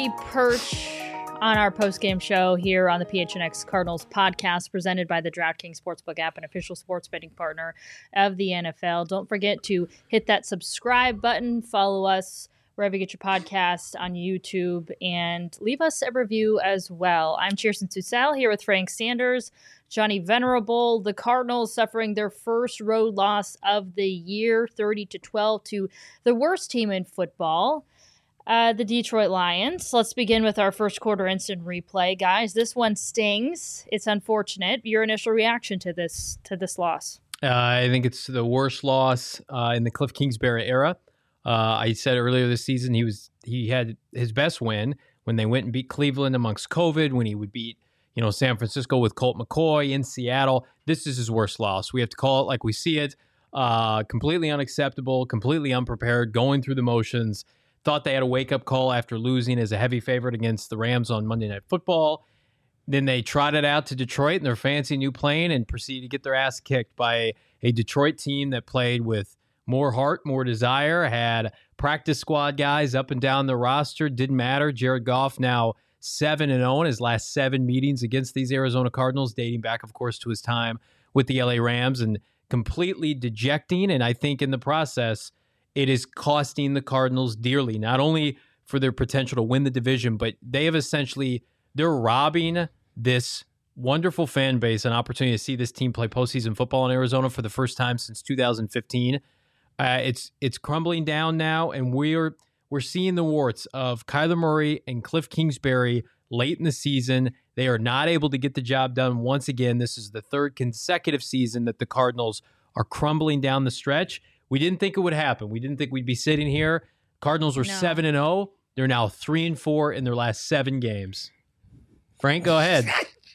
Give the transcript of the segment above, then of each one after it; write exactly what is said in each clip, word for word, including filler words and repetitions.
we perch on our post-game show here on the P H N X Cardinals podcast presented by the DraftKings Sportsbook app, an official sports betting partner of the N F L. Don't forget to hit that subscribe button, follow us wherever you get your podcast on YouTube, and leave us a review as well. I'm Cheerson Susel here with Frank Sanders, Johnny Venerable. The Cardinals suffering their first road loss of the year, thirty to twelve, to the worst team in football. Uh, the Detroit Lions. Let's begin with our first quarter instant replay, guys. This one stings. It's unfortunate. Your initial reaction to this to this loss? Uh, I think it's the worst loss uh, in the Cliff Kingsbury era. Uh, I said earlier this season he was he had his best win when they went and beat Cleveland amongst COVID. When he would beat you know San Francisco with Colt McCoy in Seattle. This is his worst loss. We have to call it like we see it. Uh, completely unacceptable. Completely unprepared. Going through the motions. Thought they had a wake-up call after losing as a heavy favorite against the Rams on Monday Night Football. Then they trotted out to Detroit in their fancy new plane and proceeded to get their ass kicked by a Detroit team that played with more heart, more desire, had practice squad guys up and down the roster. Didn't matter. Jared Goff now seven and oh in his last seven meetings against these Arizona Cardinals, dating back, of course, to his time with the L A Rams, and completely dejecting. And I think in the process, it is costing the Cardinals dearly, not only for their potential to win the division, but they have essentially, they're robbing this wonderful fan base an opportunity to see this team play postseason football in Arizona for the first time since two thousand fifteen. Uh, it's it's crumbling down now, and we're we're seeing the warts of Kyler Murray and Cliff Kingsbury late in the season. They are not able to get the job done once again. This is the third consecutive season that the Cardinals are crumbling down the stretch. We didn't think it would happen. We didn't think we'd be sitting here. Cardinals were seven and oh. They're now three and four in their last seven games. Frank, go ahead.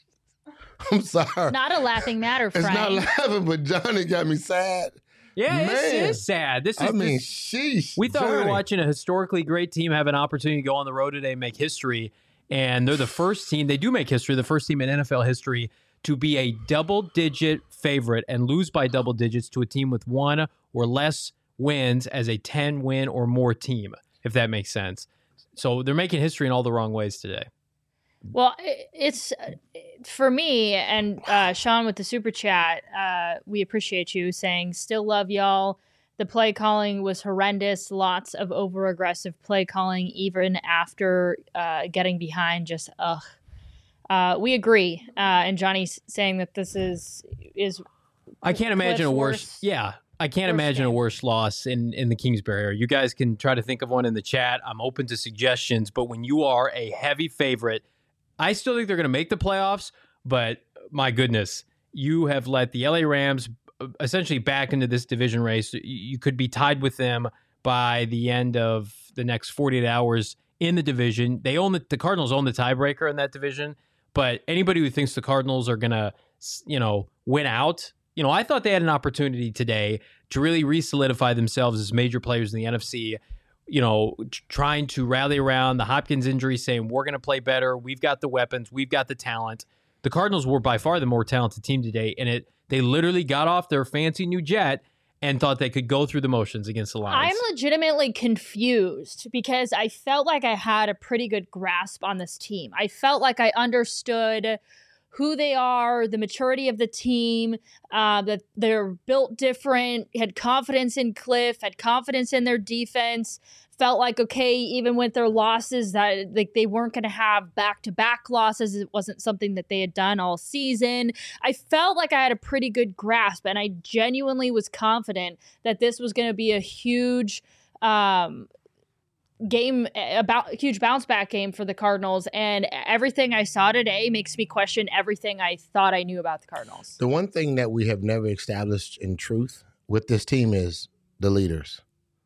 I'm sorry. It's not a laughing matter, Frank. It's not laughing, but Johnny got me sad. Yeah, Man. it is sad. This is. I mean, this, sheesh. we thought Johnny. we were watching a historically great team have an opportunity to go on the road today and make history. And they're the first team. They do make history. The first team in N F L history to be a double-digit favorite and lose by double digits to a team with one or less wins as a ten-win or more team, if that makes sense. So they're making history in all the wrong ways today. Well, it's for me, and uh, Sean with the super chat, uh, we appreciate you saying, still love y'all. The play calling was horrendous. Lots of over-aggressive play calling, even after uh, getting behind. Just, ugh. Uh, we agree. Uh, and Johnny's saying that this is is. I can't imagine a worse. worse Yeah, I can't worse imagine game. a worse loss in in the Kingsbury area. You guys can try to think of one in the chat. I'm open to suggestions. But when you are a heavy favorite, I still think they're going to make the playoffs. But my goodness, you have let the L A Rams essentially back into this division race. You could be tied with them by the end of the next forty-eight hours in the division. They own the, the Cardinals own the tiebreaker in that division. But anybody who thinks the Cardinals are going to, you know, win out, you know, I thought they had an opportunity today to really re-solidify themselves as major players in the N F C, you know, t- trying to rally around the Hopkins injury, saying we're going to play better. We've got the weapons. We've got the talent. The Cardinals were by far the more talented team today, and it they literally got off their fancy new jet and thought they could go through the motions against the Lions. I'm legitimately confused because I felt like I had a pretty good grasp on this team. I felt like I understood who they are, the maturity of the team, uh, that they're built different, had confidence in Cliff, had confidence in their defense, felt like, okay, even with their losses, that like they weren't going to have back-to-back losses. It wasn't something that they had done all season. I felt like I had a pretty good grasp, and I genuinely was confident that this was going to be a huge um, game, about huge bounce back game for the Cardinals. And everything I saw today makes me question everything I thought I knew about the Cardinals. The one thing that we have never established in truth with this team is the leaders.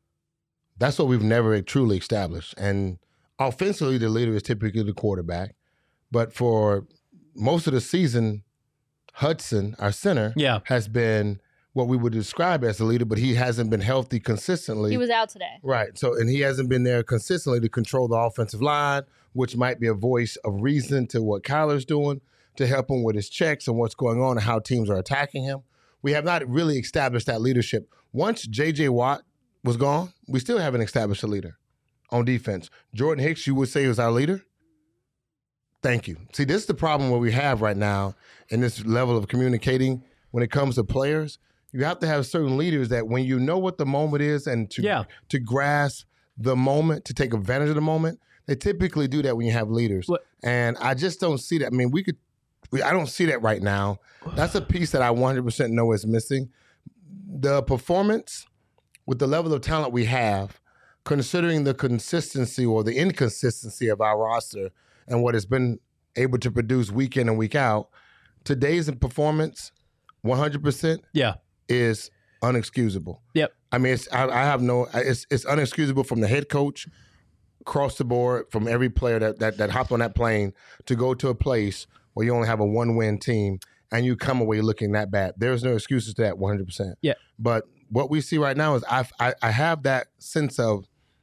That's what we've never truly established. And offensively, the leader is typically the quarterback. But for most of the season, Hudson, our center, Yeah. has been what we would describe as the leader, but he hasn't been healthy consistently. He was out today. Right. So, and he hasn't been there consistently to control the offensive line, which might be a voice of reason to what Kyler's doing to help him with his checks and what's going on and how teams are attacking him. We have not really established that leadership. Once J J Watt was gone, we still haven't established a leader. on defense. Jordan Hicks, you would say, was our leader? Thank you. See, this is the problem what we have right now in this level of communicating when it comes to players. You have to have certain leaders that when you know what the moment is and to yeah. to grasp the moment, to take advantage of the moment, they typically do that when you have leaders. What? And I just don't see that. I mean, we could we, I don't see that right now. That's a piece that I one hundred percent know is missing. The performance with the level of talent we have, considering the consistency or the inconsistency of our roster and what it's been able to produce week in and week out, today's performance, one hundred percent yeah. is unexcusable. Yep. I mean, it's, I, I have no, it's it's unexcusable from the head coach, across the board, from every player that, that, that hopped on that plane to go to a place where you only have a one-win team and you come away looking that bad. There's no excuses to that one hundred percent. Yeah. But what we see right now is I, I, I have that sense of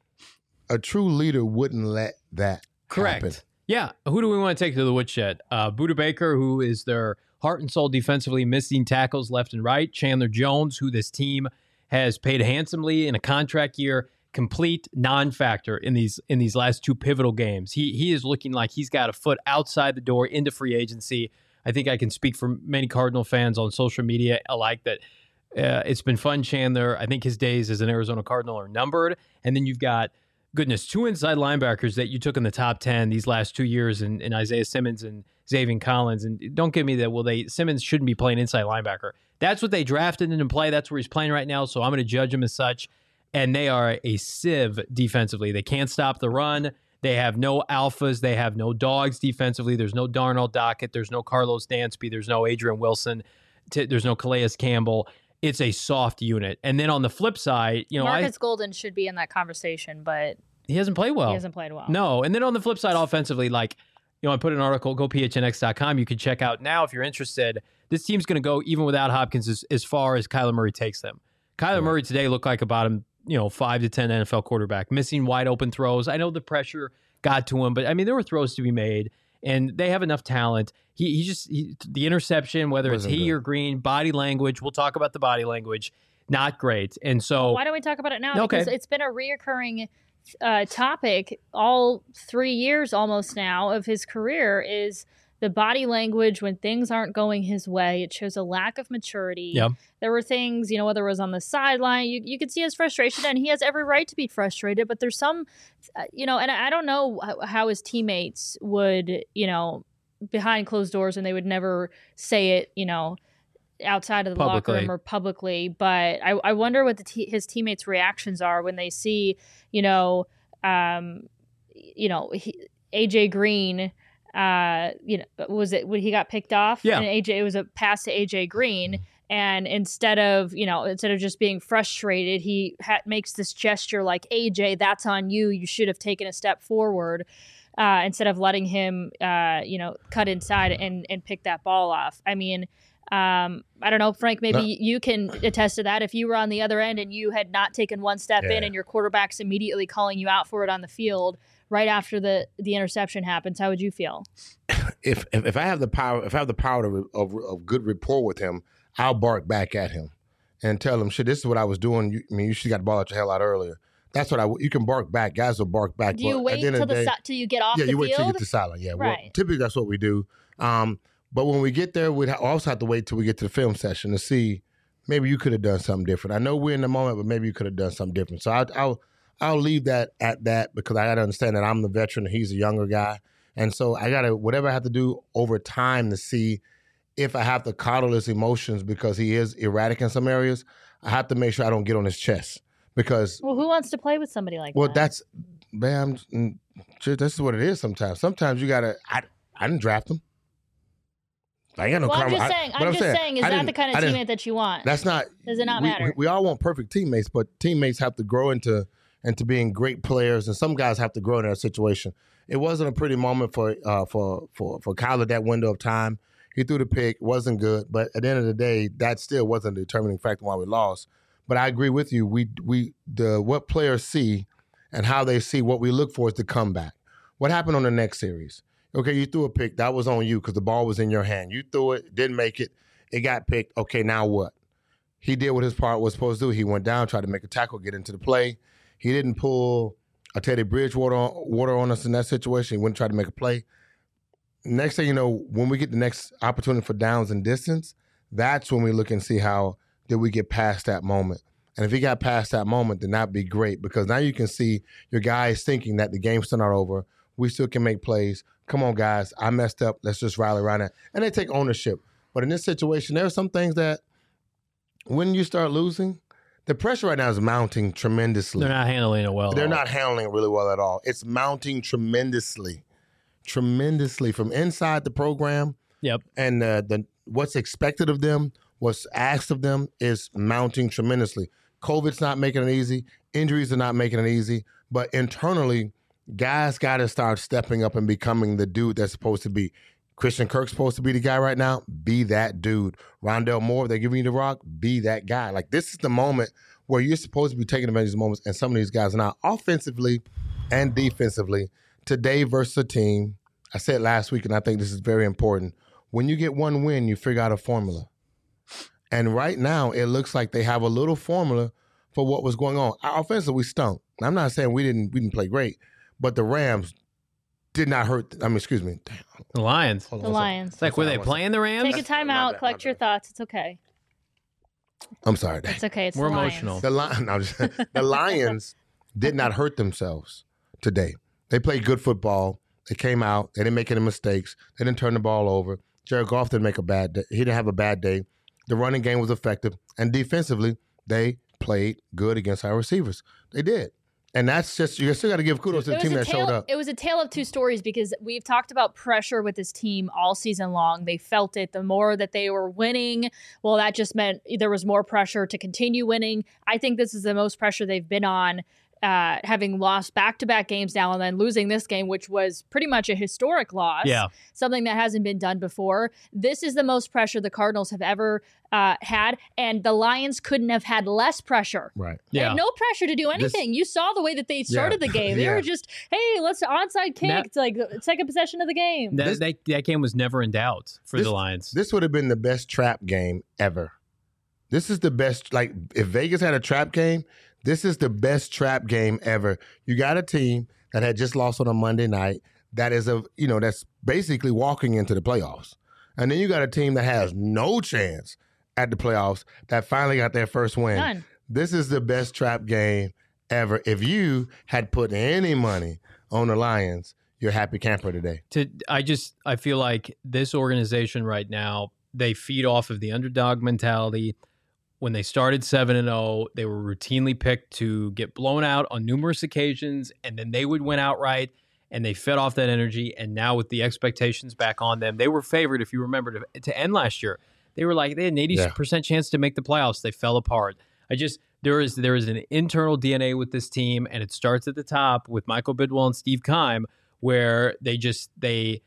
a true leader wouldn't let that Correct. happen. Yeah. Who do we want to take to the woodshed? Uh, Budda Baker, who is their heart and soul defensively, missing tackles left and right. Chandler Jones, who this team has paid handsomely in a contract year, complete non-factor in these in these last two pivotal games. He he is looking like he's got a foot outside the door into free agency. I think I can speak for many Cardinal fans on social media alike that uh, it's been fun, Chandler. I think his days as an Arizona Cardinal are numbered. And then you've got, goodness, two inside linebackers that you took in the top ten these last two years in, in Isaiah Simmons and Zaven Collins. And don't give me that, well, they Simmons shouldn't be playing inside linebacker. That's what they drafted him to play. That's where he's playing right now, so I'm going to judge him as such. And they are a sieve defensively. They can't stop the run. They have no alphas. They have no dogs defensively. There's no Darnell Dockett. There's no Carlos Dansby. There's no Adrian Wilson. T- there's no Calais Campbell. It's a soft unit. And then on the flip side, you know, Marcus I, Golden should be in that conversation, but he hasn't played well. he hasn't played well. No. And then on the flip side, offensively, like, you know, I put an article, go P H N X dot com. You can check out now if you're interested. This team's going to go, even without Hopkins, as, as far as Kyler Murray takes them. Kyler yeah. Murray today looked like a bottom, you know, five to ten N F L quarterback, missing wide open throws. I know the pressure got to him, but I mean, there were throws to be made, and they have enough talent. He he just, he, the interception, whether it's he good. or Green, body language, we'll talk about the body language, not great. And so. Why don't we talk about it now? Okay. Because it's been a reoccurring uh, topic all three years almost now of his career is the body language when things aren't going his way. It shows a lack of maturity. Yep. There were things, you know, whether it was on the sideline, you, you could see his frustration, and he has every right to be frustrated. But there's some, uh, you know, and I don't know how his teammates would, you know, behind closed doors, and they would never say it, you know, outside of the publicly. locker room or publicly. But I, I wonder what the te- his teammates' reactions are when they see, you know, um, you know, he, A J Green. Uh, you know, was it when he got picked off? Yeah. And A J, it was a pass to A J Green, and instead of you know, instead of just being frustrated, he ha- makes this gesture like, A J, that's on you. You should have taken a step forward, uh, instead of letting him, uh, you know, cut inside and and pick that ball off. I mean, um, I don't know, Frank. Maybe no. you can attest to that. If you were on the other end and you had not taken one step yeah. in, and your quarterback's immediately calling you out for it on the field right after the, the interception happens, how would you feel? If if, if I have the power, if I have the power to, of of good rapport with him, I'll bark back at him and tell him, "Shit, this is what I was doing. You, I mean, you should have got the ball out your hell out earlier." That's what I. You can bark back. Guys will bark back. Do you wait till the, the day, till you get off yeah, the field? Yeah, you wait till you get to silent. Yeah, right. Well, typically that's what we do. Um, but when we get there, we also have to wait till we get to the film session to see maybe you could have done something different. I know we're in the moment, but maybe you could have done something different. So I'll. I'll I'll leave that at that because I got to understand that I'm the veteran and he's a younger guy. And so I got to, whatever I have to do over time to see if I have to coddle his emotions because he is erratic in some areas, I have to make sure I don't get on his chest because. Well, who wants to play with somebody like well, that? Well, that's, man, this is what it is sometimes. Sometimes you got to, I, I didn't draft him. I ain't got no well, I'm just I, saying, I'm, I'm just saying, saying, is that the kind of teammate that you want? That's not. Does it not we, matter? We, we all want perfect teammates, but teammates have to grow into into being great players, and some guys have to grow in that situation. It wasn't a pretty moment for uh, for for for Kyler that window of time. He threw the pick, wasn't good, but at the end of the day, that still wasn't the determining factor why we lost. But I agree with you. We we the what players see and how they see what we look for is the comeback. What happened on the next series? Okay, you threw a pick. That was on you because the ball was in your hand. You threw it, didn't make it. It got picked. Okay, now what? He did what his part was supposed to do. He went down, tried to make a tackle, get into the play. He didn't pull a Teddy Bridgewater on, water on us in that situation. He wouldn't try to make a play. Next thing you know, when we get the next opportunity for downs and distance, that's when we look and see how did we get past that moment. And if he got past that moment, then that'd be great because now you can see your guys thinking that the game's still not over. We still can make plays. Come on, guys. I messed up. Let's just rally around it. And they take ownership. But in this situation, there are some things that when you start losing, the pressure right now is mounting tremendously. They're not handling it well. They're not handling it really well at all. It's mounting tremendously, tremendously from inside the program. Yep. And uh, the what's expected of them, what's asked of them is mounting tremendously. COVID's not making it easy. Injuries are not making it easy. But internally, guys got to start stepping up and becoming the dude that's supposed to be. Christian Kirk's supposed to be the guy right now. Be that dude. Rondell Moore, they're giving you the rock. Be that guy. Like, this is the moment where you're supposed to be taking advantage of these moments, and some of these guys are now offensively and defensively. Today versus a team, I said last week, and I think this is very important. When you get one win, you figure out a formula. And right now, it looks like they have a little formula for what was going on. Our offensively, we stunk. I'm not saying we didn't we didn't play great, but the Rams did not hurt. I mean, excuse me. Damn. The Lions. The Lions. It's like, were they playing the Rams? Take a time out, collect your thoughts. It's okay. I'm sorry. It's okay. It's We're the emotional. The, Li- no, just, the Lions did not hurt themselves today. They played good football. They came out. They didn't make any mistakes. They didn't turn the ball over. Jared Goff didn't make a bad day. He didn't have a bad day. The running game was effective. And defensively, they played good against our receivers. They did. And that's just, you still got to give kudos to the team that tale, showed up. It was a tale of two stories because we've talked about pressure with this team all season long. They felt it. The more that they were winning, well, that just meant there was more pressure to continue winning. I think this is the most pressure they've been on, uh, having lost back-to-back games now and then losing this game, which was pretty much a historic loss. Yeah. Something that hasn't been done before. This is the most pressure the Cardinals have ever uh, had, and the Lions couldn't have had less pressure. Right. They Yeah. had no pressure to do anything. This, you saw the way that they started yeah. the game. They Yeah. were just, hey, let's onside kick. That- it's like the second possession of the game. That, This- that, that game was never in doubt for This- the Lions. This would have been the best trap game ever. This is the best, like, if Vegas had a trap game, this is the best trap game ever. You got a team that had just lost on a Monday night that is, a you know, that's basically walking into the playoffs. And then you got a team that has no chance at the playoffs that finally got their first win. None. This is the best trap game ever. If you had put any money on the Lions, you're a happy camper today. To I just I feel like this organization right now, they feed off of the underdog mentality. When they started seven and oh, they were routinely picked to get blown out on numerous occasions, and then they would win outright, and they fed off that energy. And now with the expectations back on them, they were favored, if you remember, to, to end last year. They were like, they had an eighty percent yeah. chance to make the playoffs. They fell apart. I just, there is there is an internal D N A with this team, and it starts at the top with Michael Bidwell and Steve Keim, where they just, they,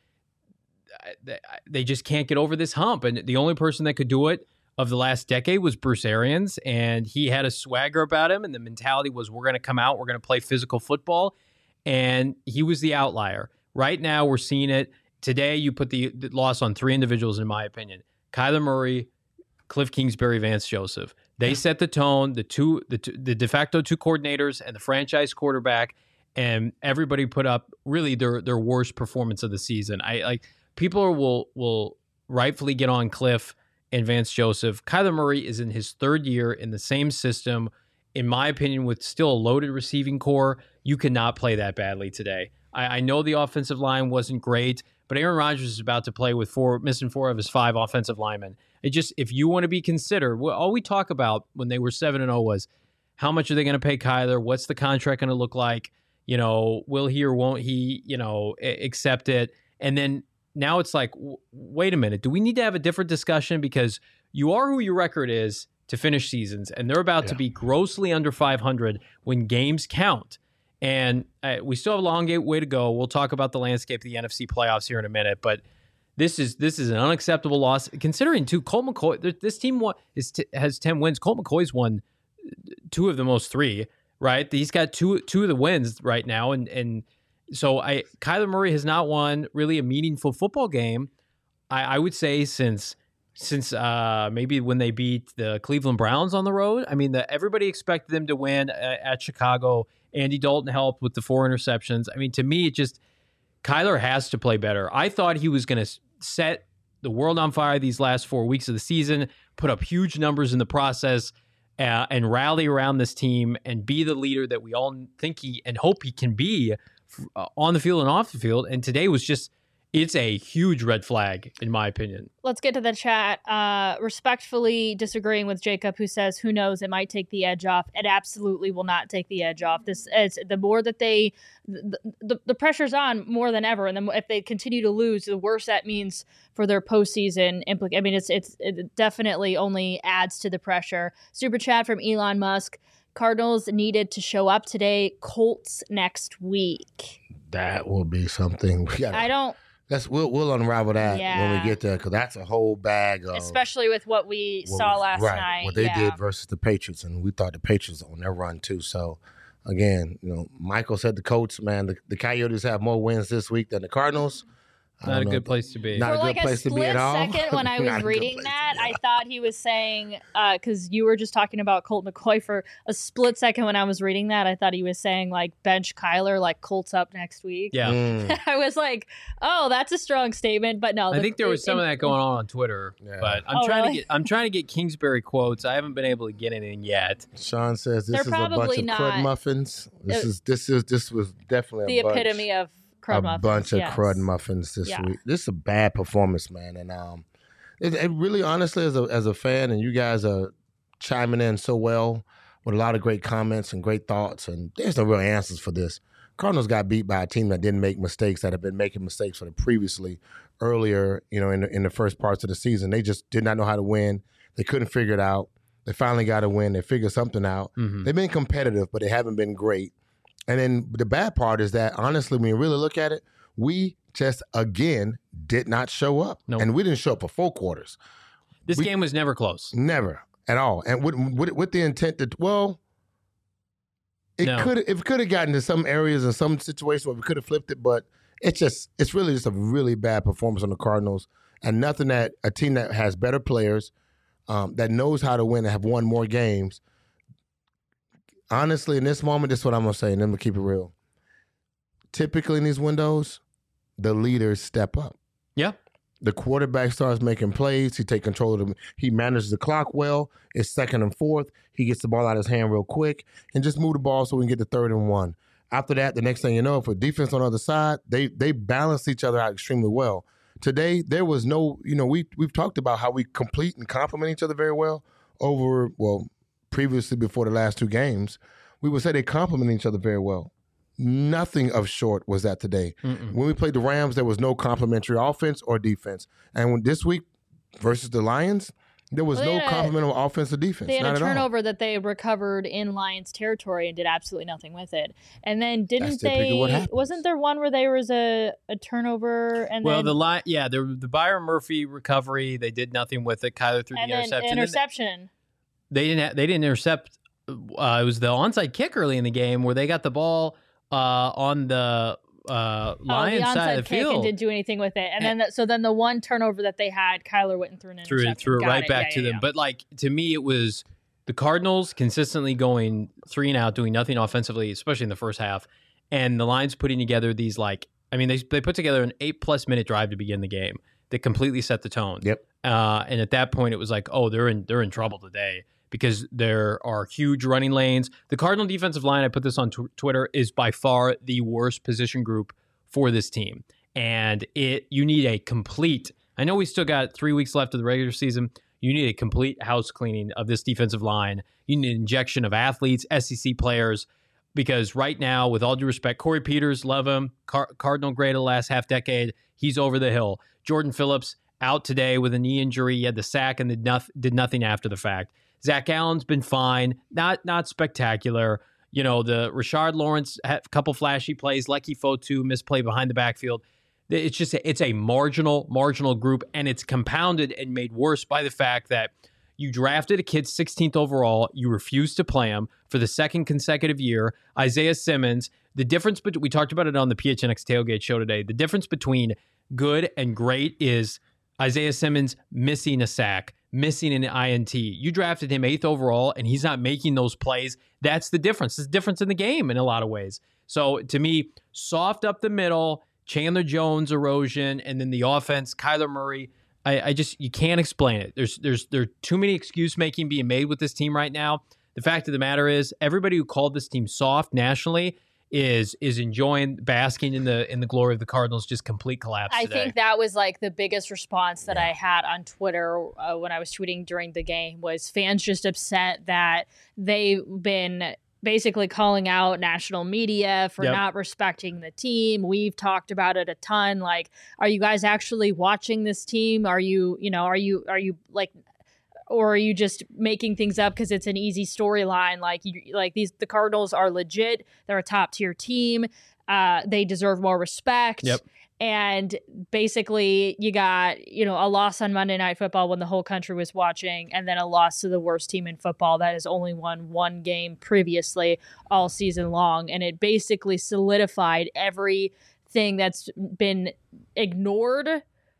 they, they just can't get over this hump. And the only person that could do it of the last decade was Bruce Arians, and he had a swagger about him, and the mentality was, we're going to come out, we're going to play physical football, and he was the outlier. Right now, we're seeing it. Today, you put the, the loss on three individuals, in my opinion. Kyler Murray, Cliff Kingsbury, Vance Joseph. They set the tone, the two, the, two, the de facto two coordinators and the franchise quarterback, and everybody put up really their their worst performance of the season. I like people will will rightfully get on Cliff and Vance Joseph. Kyler Murray is in his third year in the same system. In my opinion, with still a loaded receiving core, you cannot play that badly today. I, I know the offensive line wasn't great, but Aaron Rodgers is about to play with four, missing four of his five offensive linemen. It just, if you want to be considered, well, all we talk about when they were seven and oh was how much are they going to pay Kyler? What's the contract going to look like? You know, will he or won't he, you know, accept it? And then now it's like, w- wait a minute, do we need to have a different discussion? Because you are who your record is to finish seasons, and they're about yeah. to be grossly under five hundred when games count. And uh, we still have a long way to go. We'll talk about the landscape of the N F C playoffs here in a minute, but this is this is an unacceptable loss. Considering, too, Colt McCoy, this team won, is t- has ten wins. Colt McCoy's won two of the most three, right? He's got two two of the wins right now, and and so I Kyler Murray has not won really a meaningful football game, I, I would say, since since uh, maybe when they beat the Cleveland Browns on the road. I mean, the, everybody expected them to win at, at Chicago. Andy Dalton helped with the four interceptions. I mean, to me, it just Kyler has to play better. I thought he was going to set the world on fire these last four weeks of the season, put up huge numbers in the process, uh, and rally around this team and be the leader that we all think he and hope he can be uh, on the field and off the field. And today was just, it's a huge red flag, in my opinion. Let's get to the chat. Uh, respectfully disagreeing with Jacob, who says, who knows, it might take the edge off. It absolutely will not take the edge off. This is the more that they, the, the, the pressure's on more than ever. And then if they continue to lose, the worse that means for their postseason implication. I mean, it's, it's, it definitely only adds to the pressure. Super chat from Elon Musk. Cardinals needed to show up today. Colts next week. That will be something. We gotta, I don't. That's we'll we'll unravel that Yeah. when we get there, because that's a whole bag of, Especially with what we what saw was- last right, night. what they yeah. did versus the Patriots, and we thought the Patriots on their run too. So again, you know, Michael said the Colts, man, the, the Coyotes have more wins this week than the Cardinals. I Not a don't know good if- place to be. Not For a good like a place to be split at all. second when I Not was a good reading place to that, be I at all. thought he was saying, because you were just talking about Colt McCoy for a split second when I was reading that, I thought he was saying like bench Kyler, like Colts up next week. Yeah. Mm. I was like, oh, that's a strong statement, but no. I the- think there was it- some it- of that going on on Twitter, Yeah. but I'm Oh, trying really? to get I'm trying to get Kingsbury quotes. I haven't been able to get anything yet. Sean says this They're is a bunch probably of not- crud muffins. This Uh, is this is this was definitely The a bunch, epitome of crud a muffins. bunch of yes. crud muffins this Yeah. week. This is a bad performance, man, and um, it, it really honestly as a as a fan, and you guys are chiming in so well with a lot of great comments and great thoughts, and there's no real answers for this. Cardinals got beat by a team that didn't make mistakes, that have been making mistakes for the previously earlier, you know, in the, in the first parts of the season. They just did not know how to win. They couldn't figure it out. They finally got to win. They figured something out. Mhm. They've been competitive, but they haven't been great. And then the bad part is that, honestly, when you really look at it, we just, again, did not show up. Nope. And we didn't show up for four quarters. This We- game was never close. Never at all. And with, with, with the intent that, well, it No. could it could have gotten to some areas and some situations where we could have flipped it, but it's just, it's really just a really bad performance on the Cardinals, and nothing that a team that has better players, um, that knows how to win and have won more games. Honestly, in this moment, this is what I'm going to say, and then we'll keep it real. Typically in these windows, the leaders step up. Yeah. The quarterback starts making plays. He take control of them. He manages the clock well. It's second and fourth. He gets the ball out of his hand real quick and just move the ball so we can get the third and one. After that, the next thing you know, for defense on the other side, they they balance each other out extremely well. Today, there was no, you know, we, we've talked about how we complete and complement each other very well over, well, previously before the last two games. We would say they complement each other very well. Nothing of short was that today. Mm-mm. When we played the Rams, there was no complementary offense or defense. And when this week versus the Lions, there was Well, they no had a- complementary offense or defense. They had Not a at all. turnover that they recovered in Lions territory and did absolutely nothing with it. And then didn't That's typically they? what happens. Wasn't there one where there was a, a turnover and Well, then the line, yeah, the the Byron Murphy recovery, they did nothing with it. Kyler threw and the then interception. And interception? They didn't. Ha- they didn't intercept. Uh, it was the onside kick early in the game where they got the ball uh, on the uh, Lions oh, the side onside of the kick field. and didn't do anything with it. And, And- then the, so then the one turnover that they had, Kyler went and threw an threw interception. it, threw it Got right back Yeah, to yeah, them. yeah. But like to me, it was the Cardinals consistently going three and out, doing nothing offensively, especially in the first half, and the Lions putting together these like, I mean, they they put together an eight plus minute drive to begin the game that completely set the tone. Yep. Uh, and at that point, it was like, oh, they're in they're in trouble today because there are huge running lanes. The Cardinal defensive line, I put this on tw- Twitter, is by far the worst position group for this team. And it you need a complete, I know we still got three weeks left of the regular season. You need a complete house cleaning of this defensive line. You need an injection of athletes, S E C players, because right now, with all due respect, Corey Peters, love him, Car- Cardinal grade of the last half decade, he's over the hill. Jordan Phillips out today with a knee injury. He had the sack and did, noth- did nothing after the fact. Zach Allen's been fine, not not spectacular. You know, the Rashard Lawrence had a couple flashy plays, Lecky Fotu misplay behind the backfield. It's just a, it's a marginal marginal group, and it's compounded and made worse by the fact that you drafted a kid sixteenth overall, you refused to play him for the second consecutive year. Isaiah Simmons, the difference between, we talked about it on the P H N X Tailgate show today, the difference between good and great is Isaiah Simmons missing a sack, missing an I N T. You drafted him eighth overall, and he's not making those plays. That's the difference. It's the difference in the game in a lot of ways. So to me, soft up the middle, Chandler Jones erosion, and then the offense, Kyler Murray. I, I just you can't explain it. There's there's there are too many excuse making being made with this team right now. The fact of the matter is, everybody who called this team soft nationally is is enjoying basking in the in the glory of the Cardinals' just complete collapse I today. think that was like the biggest response that Yeah. I had on Twitter uh, when I was tweeting during the game was fans just upset that they've been basically calling out national media for Yep. not respecting the team. We've talked about it a ton. Like, are you guys actually watching this team? Are you, you know, are you, are you like, or are you just making things up because it's an easy storyline? Like, you, like these, the Cardinals are legit. They're a top tier team. Uh, they deserve more respect. Yep. And basically, you got, you know, a loss on Monday Night Football when the whole country was watching, and then a loss to the worst team in football that has only won one game previously all season long. And it basically solidified everything that's been ignored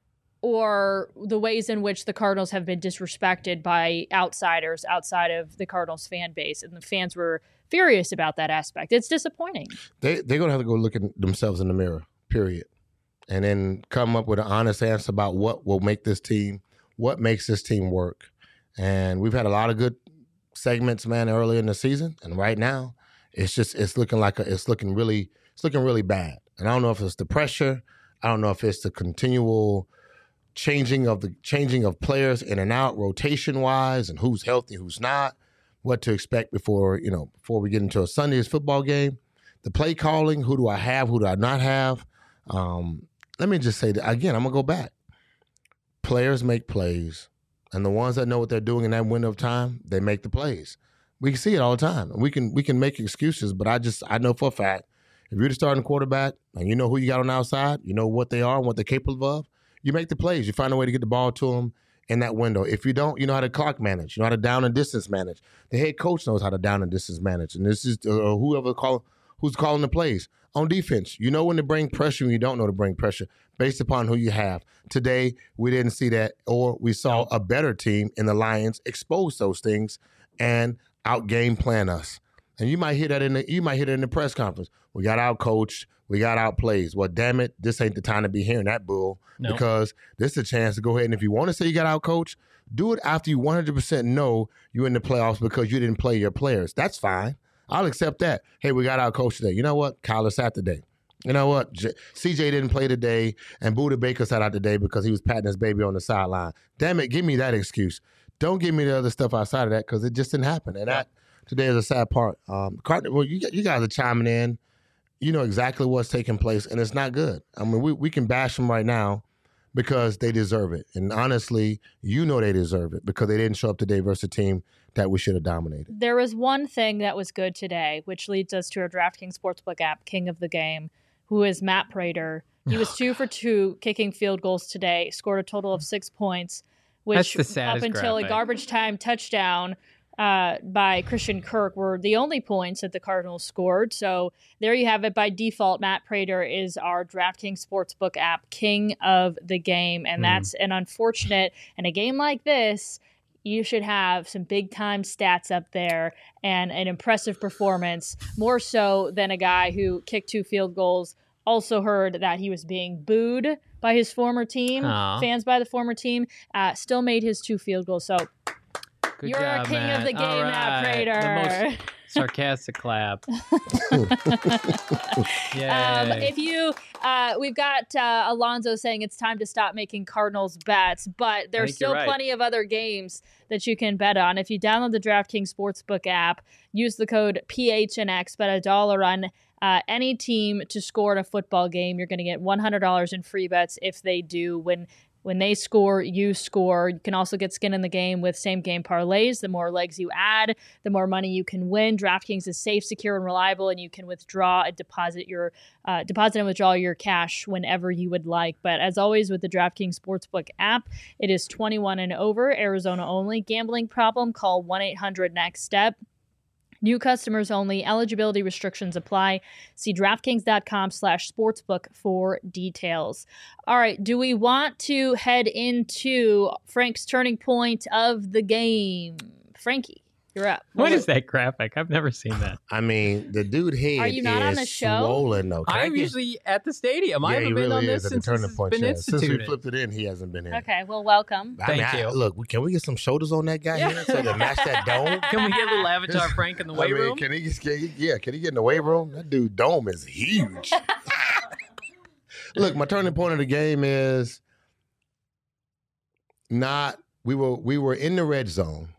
or the ways in which the Cardinals have been disrespected by outsiders outside of the Cardinals fan base. And the fans were furious about that aspect. It's disappointing. They, they're going to have to go look at themselves in the mirror, period. And then come up with an honest answer about what will make this team, what makes this team work. And we've had a lot of good segments, man, earlier in the season. And right now, it's just, it's looking like, a, it's looking really, it's looking really bad. And I don't know if it's the pressure. I don't know if it's the continual changing of the changing of players in and out, rotation wise, and who's healthy, who's not, what to expect before, you know, before we get into a Sunday's football game. The play calling, who do I have, who do I not have? Um, let me just say that again, I'm gonna go back. Players make plays, and the ones that know what they're doing in that window of time, they make the plays. We can see it all the time. We can we can make excuses, but I just I know for a fact, if you're the starting quarterback and you know who you got on the outside, you know what they are and what they're capable of, you make the plays. You find a way to get the ball to them in that window. If you don't, you know how to clock manage. You know how to down and distance manage. The head coach knows how to down and distance manage, and this is uh, whoever call who's calling the plays. On defense, you know when to bring pressure and you don't know to bring pressure based upon who you have. Today, we didn't see that, or we saw a better team in the Lions expose those things and out-game plan us. And you might hear that in the you might hear that in the press conference. We got out-coached, we got out-plays. Well, damn it, this ain't the time to be hearing that bull No. because this is a chance to go ahead and if you want to say you got out-coached, do it after you one hundred percent know you're in the playoffs because you didn't play your players. That's fine. I'll accept that. Hey, we got our coach today. You know what? Kyler sat today. You know what? J- C J didn't play today, and Buda Baker sat out today because he was patting his baby on the sideline. Damn it, give me that excuse. Don't give me the other stuff outside of that because it just didn't happen. And that today is a sad part. Um, Cardinal, well, you, you guys are chiming in. You know exactly what's taking place, and it's not good. I mean, we, we can bash them right now because they deserve it. And honestly, you know they deserve it because they didn't show up today versus a team that we should have dominated. There was one thing that was good today, which leads us to our DraftKings Sportsbook app, king of the game, who is Matt Prater. He was two for two kicking field goals today, scored a total of six points, which That's the saddest up until graphic. a garbage time touchdown uh, by Christian Kirk were the only points that the Cardinals scored. So there you have it. By default, Matt Prater is our DraftKings Sportsbook app, king of the game. And Mm. that's an unfortunate, in a game like this, you should have some big time stats up there and an impressive performance, more so than a guy who kicked two field goals. Also heard that he was being booed by his former team, Aw. fans by the former team, uh, still made his two field goals. So Good you're job, a king Matt. of the game, All Matt right. Prater. The most sarcastic clap. Yay. Um, if you, uh, we've got uh, Alonzo saying it's time to stop making Cardinals bets, but there's think still you're right. plenty of other games that you can bet on. If you download the DraftKings Sportsbook app, use the code P H N X, bet a dollar on uh, any team to score in a football game. You're going to get one hundred dollars in free bets if they do. When When they score, you score. You can also get skin in the game with same-game parlays. The more legs you add, the more money you can win. DraftKings is safe, secure, and reliable, and you can withdraw and deposit your uh, deposit and withdraw your cash whenever you would like. But as always, with the DraftKings Sportsbook app, it is twenty-one and over, Arizona only. Gambling problem? Call one eight hundred next step. New customers only. Eligibility restrictions apply. See DraftKings.com slash sportsbook for details. All right. Do we want to head into Frank's turning point of the game? Frankie, you're up. What is that graphic? I've never seen that. I mean, the dude head Are you not is on the show? swollen, though. Can I I'm get- usually at the stadium. I Yeah, haven't he been really on this is at the since turning this has point. been yeah. Since we instituted. flipped it in, he hasn't been in. Okay. Well, welcome. I mean, Thank I- you. look, we- can we get some shoulders on that guy Yeah. here so to match that dome? Can we get a little Avatar Frank in the I weight mean, room? Can he, get- can he? Yeah, can he get in the weight room? That dude dome is huge. Look, my turning point of the game is not. We were we were in the red zone,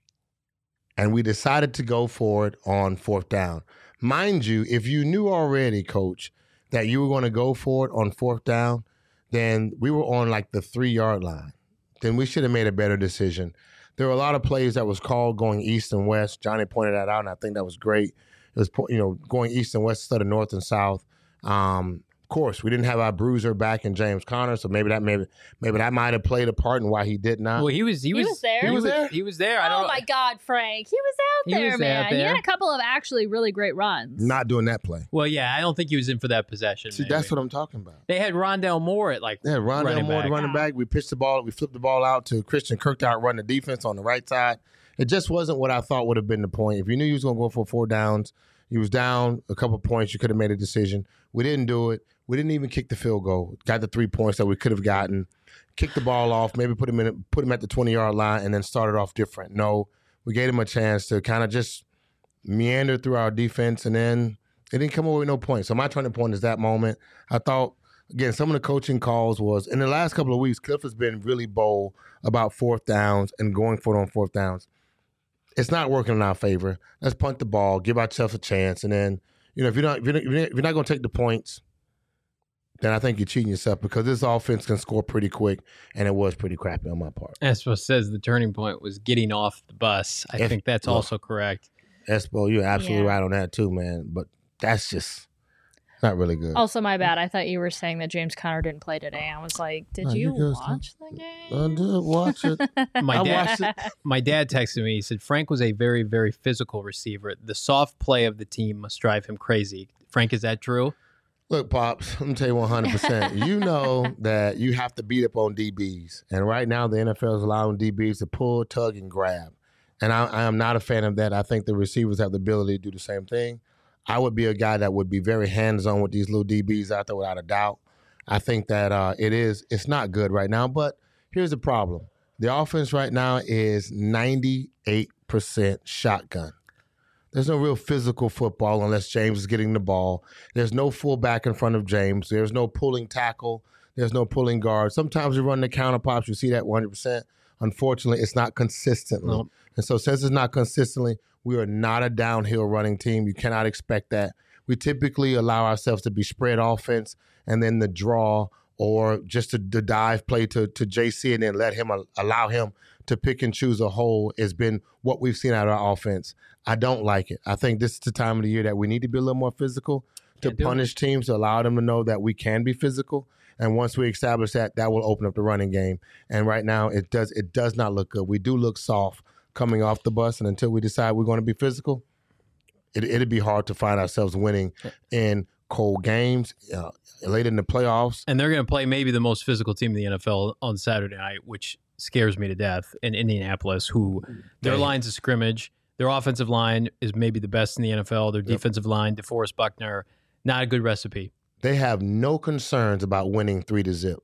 and we decided to go for it on fourth down. Mind you, if you knew already, Coach, that you were going to go for it on fourth down, then we were on like the three yard line. Then we should have made a better decision. There were a lot of plays that was called going east and west. Johnny pointed that out, and I think that was great. It was, you know, going east and west instead of north and south. Um, of course, we didn't have our bruiser back in James Conner, so maybe that maybe maybe that might have played a part in why he did not. Well, he was. He, He was, was there. He He was was there? He was there. I don't Oh know. my God, Frank. He was out He there, was man. out He there. had a couple of actually really great runs. Not doing that play. Well, yeah, I don't think he was in for that possession. See, maybe. that's what I'm talking about. They had Rondell Moore at like Yeah, Rondell running Moore, back. the running back. We pitched the ball. We flipped the ball out to Christian Kirk to outrun the defense on the right side. It just wasn't what I thought would have been the point. If you knew you was going to go for four downs, you was down a couple points, you could have made a decision. We didn't do it. We didn't even kick the field goal. Got the three points that we could have gotten. Kicked the ball off, maybe put him in, put him at the twenty-yard line, and then started off different. No, we gave him a chance to kind of just meander through our defense, and then it didn't come away with no points. So my turning point is that moment. I thought, again, some of the coaching calls was, in the last couple of weeks, Cliff has been really bold about fourth downs and going for it on fourth downs. It's not working in our favor. Let's punt the ball, give ourselves a chance, and then, you know, if you're not if you're not, if you're not going to take the points, then I think you're cheating yourself because this offense can score pretty quick, and it was pretty crappy on my part. Espo says the turning point was getting off the bus. I If- think that's look. also correct. Espo, you're absolutely Yeah. right on that too, man. But that's just not really good. Also, my bad. I thought you were saying that James Conner didn't play today. I was like, did No, you you're good, watch the game? I did watch it. My I dad, watched it. my dad texted me. He said Frank was a very, very physical receiver. The soft play of the team must drive him crazy. Frank, is that true? Look, Pops, let me tell you one hundred percent. You know that you have to beat up on D Bs. And right now, the N F L is allowing D Bs to pull, tug, and grab. And I, I am not a fan of that. I think the receivers have the ability to do the same thing. I would be a guy that would be very hands-on with these little D Bs out there without a doubt. I think that uh, it is, it's not good right now. But here's the problem. The offense right now is ninety-eight percent shotgun. There's no real physical football unless James is getting the ball. There's no fullback in front of James. There's no pulling tackle. There's no pulling guard. Sometimes we run the counter pops. You see that one hundred percent. Unfortunately, it's not consistently. Nope. And so since it's not consistently, we are not a downhill running team. You cannot expect that. We typically allow ourselves to be spread offense and then the draw or just the, the dive play to, to J C and then let him allow him to pick and choose a hole has been what we've seen out of our offense. I don't like it. I think this is the time of the year that we need to be a little more physical to Can't do punish teams, to allow them to know that we can be physical. And once we establish that, that will open up the running game. And right now, it does it does not look good. We do look soft coming off the bus, and until we decide we're going to be physical, it, it'd be hard to find ourselves winning in cold games, uh, late in the playoffs. And they're going to play maybe the most physical team in the N F L on Saturday night, which scares me to death, in Indianapolis, who their Damn. lines of scrimmage, their offensive line is maybe the best in the N F L. Their Yep. defensive line, DeForest Buckner, not a good recipe. They have no concerns about winning three to zip.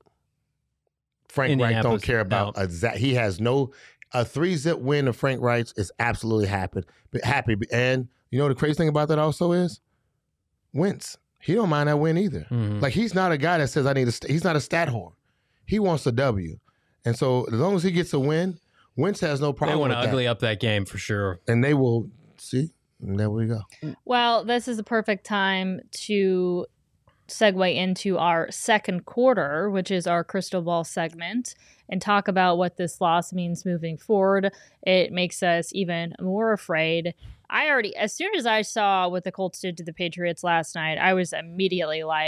Frank Reich don't Indianapolis, care about no. a za- he has no a three zip win of Frank Reich is absolutely happy. Happy, and you know the crazy thing about that also is Wentz. He don't mind that win either. Mhm. Like he's not a guy that says I need a. St-. He's not a stat whore. He wants a W, and so as long as he gets a win, Wentz has no They problem want with to that. ugly up that game for sure. And they will see. And there we go. Well, this is the perfect time to segue into our second quarter, which is our crystal ball segment, and talk about what this loss means moving forward. It makes us even more afraid. I already, as soon as I saw what the Colts did to the Patriots last night, I was immediately like,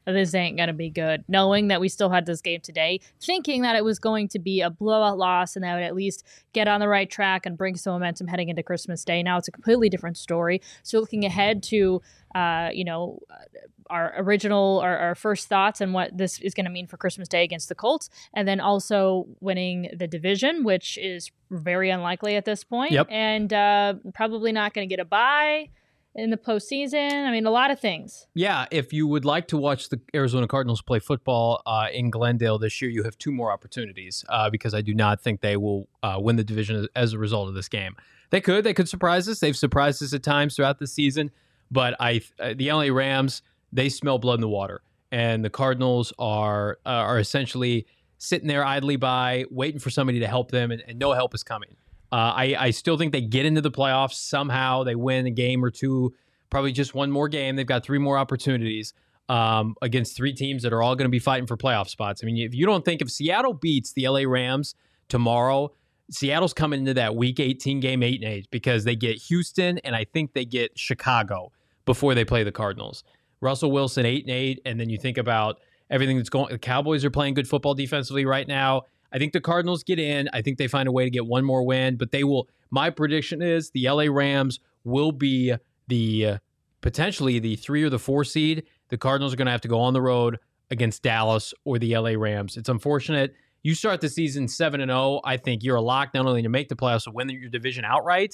that this ain't going to be good, knowing that we still had this game today, thinking that it was going to be a blowout loss and that would at least get on the right track and bring some momentum heading into Christmas Day. Now it's a completely different story. So looking ahead to, uh, you know, our original, our, our first thoughts on what this is going to mean for Christmas Day against the Colts, and then also winning the division, which is very unlikely at this point. Yep. And uh, probably not going to get a bye in the postseason. I mean, a lot of things. Yeah, if you would like to watch the Arizona Cardinals play football uh, in Glendale this year, you have two more opportunities uh, because I do not think they will uh, win the division as a result of this game. They could. They could surprise us. They've surprised us at times throughout the season. But I, uh, the L A Rams, they smell blood in the water. And the Cardinals are uh, are essentially sitting there idly by, waiting for somebody to help them, and, and no help is coming. Uh, I, I still think they get into the playoffs somehow. They win a game or two, probably just one more game. They've got three more opportunities um, against three teams that are all going to be fighting for playoff spots. I mean, if you don't think if Seattle beats the L A Rams tomorrow, Seattle's coming into that Week eighteen game eight and eight because they get Houston and I think they get Chicago before they play the Cardinals. Russell Wilson eight and eight, and then you think about everything that's going. The Cowboys are playing good football defensively right now. I think the Cardinals get in. I think they find a way to get one more win, but they will. My prediction is the L A Rams will be the uh, potentially the three or the four seed. The Cardinals are going to have to go on the road against Dallas or the L A Rams. It's unfortunate. You start the season seven and zero. I think you're a lock not only to make the playoffs but win your division outright.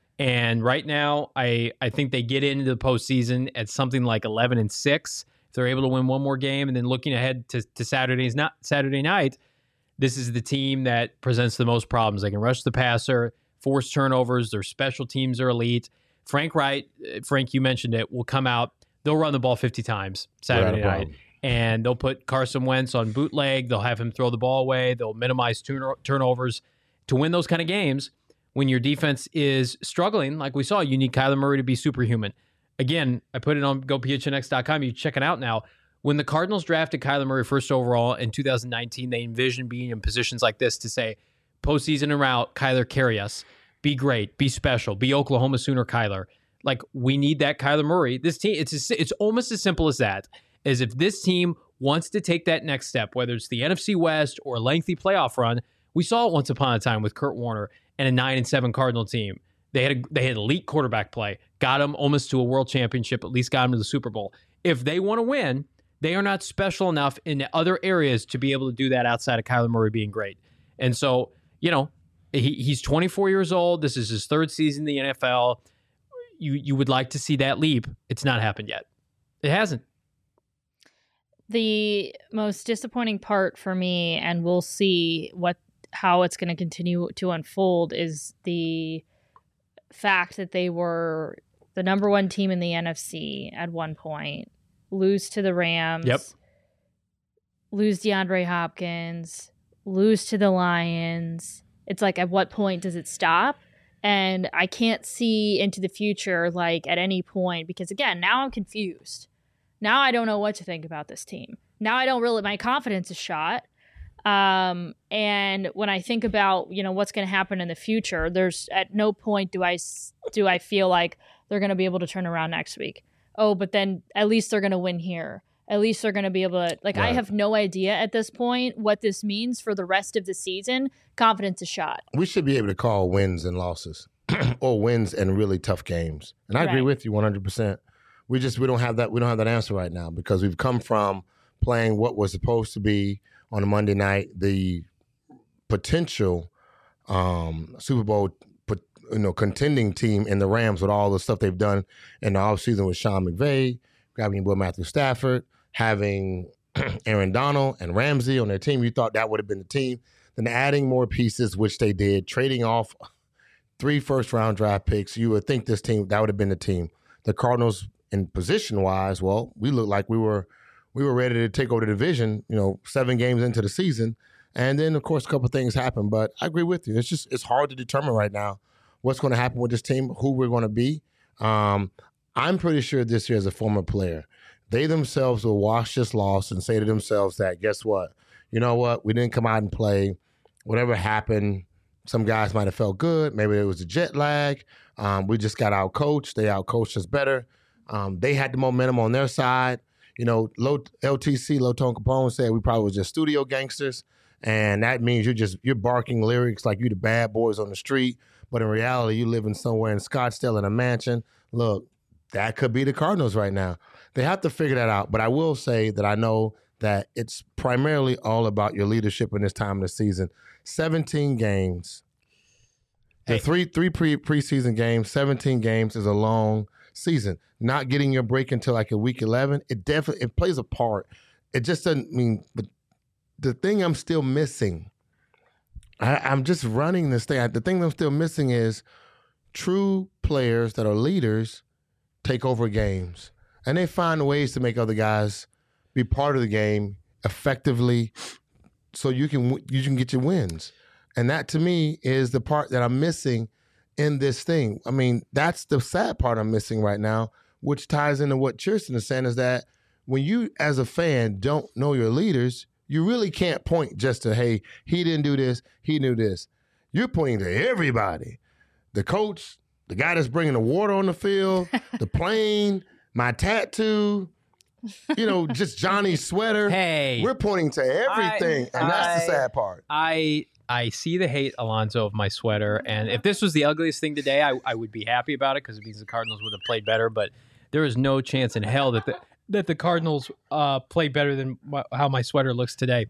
And right now, I I think they get into the postseason at something like eleven and six. If they're able to win one more game, and then looking ahead to to Saturday's not Saturday night. This is the team that presents the most problems. They can rush the passer, force turnovers. Their special teams are elite. Frank Wright, Frank, you mentioned it, will come out. They'll run the ball fifty times Saturday night. And they'll put Carson Wentz on bootleg. They'll have him throw the ball away. They'll minimize turn- turnovers. To win those kind of games, when your defense is struggling, like we saw, you need Kyler Murray to be superhuman. Again, I put it on go P H N X dot com. You check it out now. When the Cardinals drafted Kyler Murray first overall in two thousand nineteen, they envisioned being in positions like this to say, postseason and route, Kyler, carry us. Be great. Be special. Be Oklahoma Sooner Kyler. Like, we need that Kyler Murray. This team, it's a, it's almost as simple as that. As if this team wants to take that next step, whether it's the N F C West or a lengthy playoff run. We saw it once upon a time with Kurt Warner and a nine and seven Cardinal team. They had a, they had elite quarterback play, got them almost to a world championship, at least got them to the Super Bowl. If they want to win, they are not special enough in other areas to be able to do that outside of Kyler Murray being great. And so, you know, he, he's twenty-four years old. This is his third season in the N F L. You you would like to see that leap. It's not happened yet. It hasn't. The most disappointing part for me, and we'll see what how it's going to continue to unfold, is the fact that they were the number one team in the N F C at one point, lose to the Rams, yep. lose DeAndre Hopkins, lose to the Lions. It's like, at what point does it stop? And I can't see into the future, like, at any point, because, again, now I'm confused. Now I don't know what to think about this team. Now I don't really, my confidence is shot. Um, and when I think about, you know, what's going to happen in the future, there's at no point do I, do I feel like they're going to be able to turn around next week. Oh, but then at least they're going to win here. At least they're going to be able to, like, right. I have no idea at this point what this means for the rest of the season. Confidence is shot. We should be able to call wins and losses or wins and really tough games. And I right. agree with you one hundred percent. We just, we don't have that, we don't have that answer right now because we've come from playing what was supposed to be on a Monday night, the potential um, Super Bowl, you know, contending team in the Rams with all the stuff they've done in the offseason with Sean McVay, grabbing your boy Matthew Stafford, having Aaron Donald and Ramsey on their team. You thought that would have been the team. Then adding more pieces, which they did, trading off three first-round draft picks, you would think this team, that would have been the team. The Cardinals, in position-wise, well, we looked like we were we were ready to take over the division, you know, seven games into the season. And then, of course, a couple of things happened. But I agree with you. It's just, it's hard to determine right now what's going to happen with this team, who we're going to be. Um, I'm pretty sure this year as a former player, they themselves will watch this loss and say to themselves that, guess what? You know what? We didn't come out and play. Whatever happened, some guys might have felt good. Maybe it was a jet lag. Um, we just got out-coached. They out-coached us better. Um, they had the momentum on their side. You know, low, L T C, Low Tone Capone said we probably was just studio gangsters, and that means you're just you're barking lyrics like you the bad boys on the street, but in reality, you living somewhere in Scottsdale in a mansion. Look, that could be the Cardinals right now. They have to figure that out. But I will say that I know that it's primarily all about your leadership in this time of the season. seventeen games. The Hey. three three pre preseason games, seventeen games is a long season. Not getting your break until like a week eleven, it definitely it plays a part. It just doesn't mean. But the thing I'm still missing, I, I'm just running this thing. The thing I'm still missing is true players that are leaders take over games, and they find ways to make other guys be part of the game effectively, so you can you can get your wins. And that to me is the part that I'm missing in this thing. I mean, that's the sad part I'm missing right now, which ties into what Chierstin is saying, is that when you as a fan don't know your leaders, you really can't point just to, hey, he didn't do this, he knew this. You're pointing to everybody. The coach, the guy that's bringing the water on the field, the plane, my tattoo, you know, just Johnny's sweater. Hey. We're pointing to everything, I- and that's the I- sad part. I I see the hate, Alonzo, of my sweater, and if this was the ugliest thing today, I, I would be happy about it because it means the Cardinals would have played better. But there is no chance in hell that the that the Cardinals uh, play better than my, how my sweater looks today.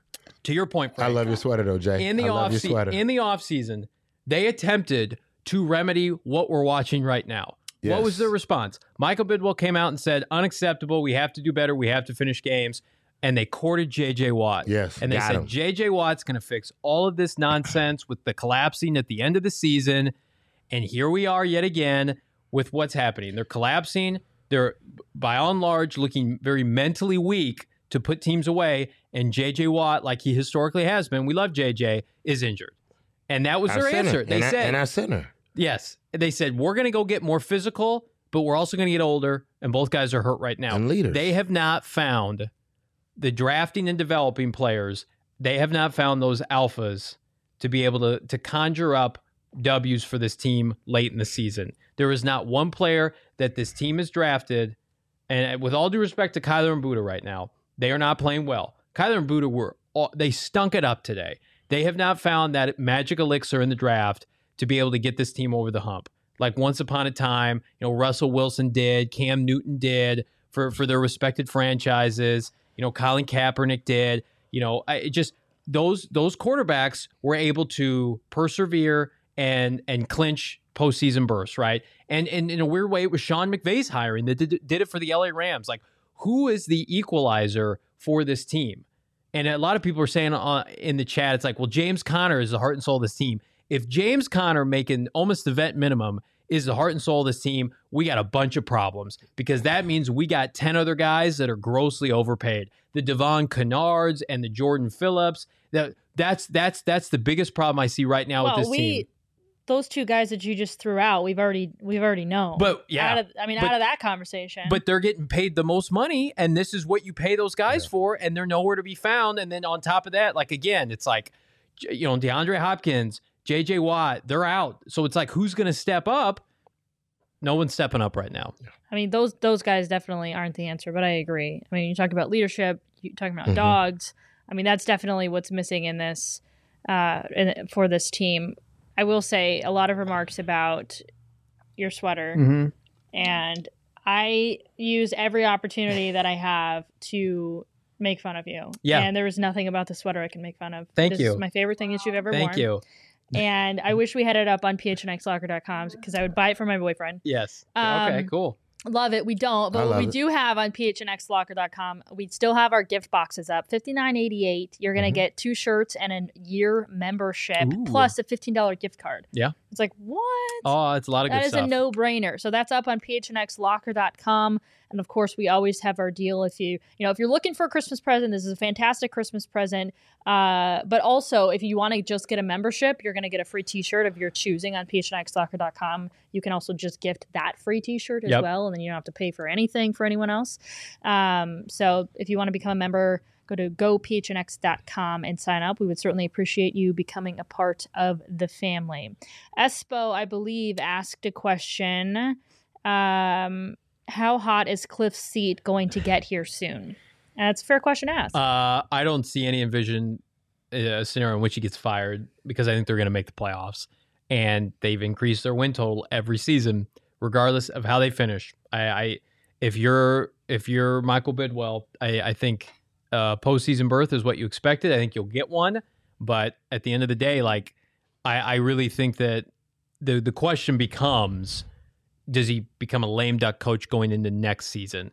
To your point, Frank, I love your sweater, though, Jay. in the I love off your se- sweater. in the off season, they attempted to remedy what we're watching right now. What was Yes. their response? Michael Bidwell came out and said, "Unacceptable. We have to do better. We have to finish games." And they courted J J Watt. Yes, And they got said, him. J J Watt's going to fix all of this nonsense with the collapsing at the end of the season. And here we are yet again with what's happening. They're collapsing. They're, by and large, looking very mentally weak to put teams away. And J J Watt, like he historically has been, we love J J, is injured. And that was Our their center. answer. They and I- said, and our center. yes, they said, we're going to go get more physical, but we're also going to get older. And both guys are hurt right now. And leaders. They have not found the drafting and developing players. They have not found those alphas to be able to, to conjure up W's for this team late in the season. There is not one player that this team has drafted, and with all due respect to Kyler and Buddha right now, they are not playing well. Kyler and Buddha were all, they stunk it up today. They have not found that magic elixir in the draft to be able to get this team over the hump. Like once upon a time, you know, Russell Wilson did, Cam Newton did for, for their respected franchises. You know, Colin Kaepernick did. You know, I it just those those quarterbacks were able to persevere and and clinch postseason bursts, right? And and in a weird way, it was Sean McVay's hiring that did, did it for the L A Rams. Like, who is the equalizer for this team? And a lot of people are saying uh, in the chat, it's like, well, James Conner is the heart and soul of this team. If James Conner making almost the vet minimum is the heart and soul of this team, we got a bunch of problems, because that means we got ten other guys that are grossly overpaid. The Devon Kennards and the Jordan Phillips. That that's that's that's the biggest problem I see right now well, with this we team. those two guys that you just threw out, we've already we've already known. But yeah, out of, I mean, but- out of that conversation. but they're getting paid the most money, and this is what you pay those guys Yeah. for, and they're nowhere to be found. And then on top of that, like again, it's like, you know, DeAndre Hopkins, J J Watt, they're out. So it's like, who's going to step up? No one's stepping up right now. I mean, those those guys definitely aren't the answer, but I agree. I mean, you talk about leadership, you talking about Mhm. dogs. I mean, that's definitely what's missing in this uh, in, for this team. I will say a lot of remarks about your sweater, Mm-hmm. and I use every opportunity that I have to make fun of you. Yeah. And there is nothing about the sweater I can make fun of. Thank this you. is my favorite thing that you've ever Thank worn. you. And I wish we had it up on p h n x locker dot com because I would buy it for my boyfriend. Yes. Um, okay, cool. Love it. We don't, but I what love we it. do have on p h n x locker dot com, we still have our gift boxes up. fifty-nine eighty-eight. You're going to Mhm. get two shirts and a year membership Ooh. plus a fifteen dollars gift card. Yeah. It's like, what? Oh, it's a lot of That good is stuff. a no-brainer. So that's up on p h n x locker dot com. And of course, we always have our deal. If you, you know, if you're looking for a Christmas present, this is a fantastic Christmas present. Uh, but also, if you want to just get a membership, you're going to get a free T-shirt of your choosing on p h n x locker dot com. You can also just gift that free T-shirt as Yep. well, and then you don't have to pay for anything for anyone else. Um, so if you want to become a member, go to go p h n x dot com and sign up. We would certainly appreciate you becoming a part of the family. Espo, I believe, asked a question. Um, how hot is Cliff's seat going to get here soon? And that's a fair question to ask. Uh, I don't see any envision a scenario in which he gets fired because I think they're going to make the playoffs. And they've increased their win total every season, regardless of how they finish. I, I if you're if you're Michael Bidwell, I, I think uh, postseason berth is what you expected. I think you'll get one. But at the end of the day, like I, I really think that the the question becomes, does he become a lame duck coach going into next season?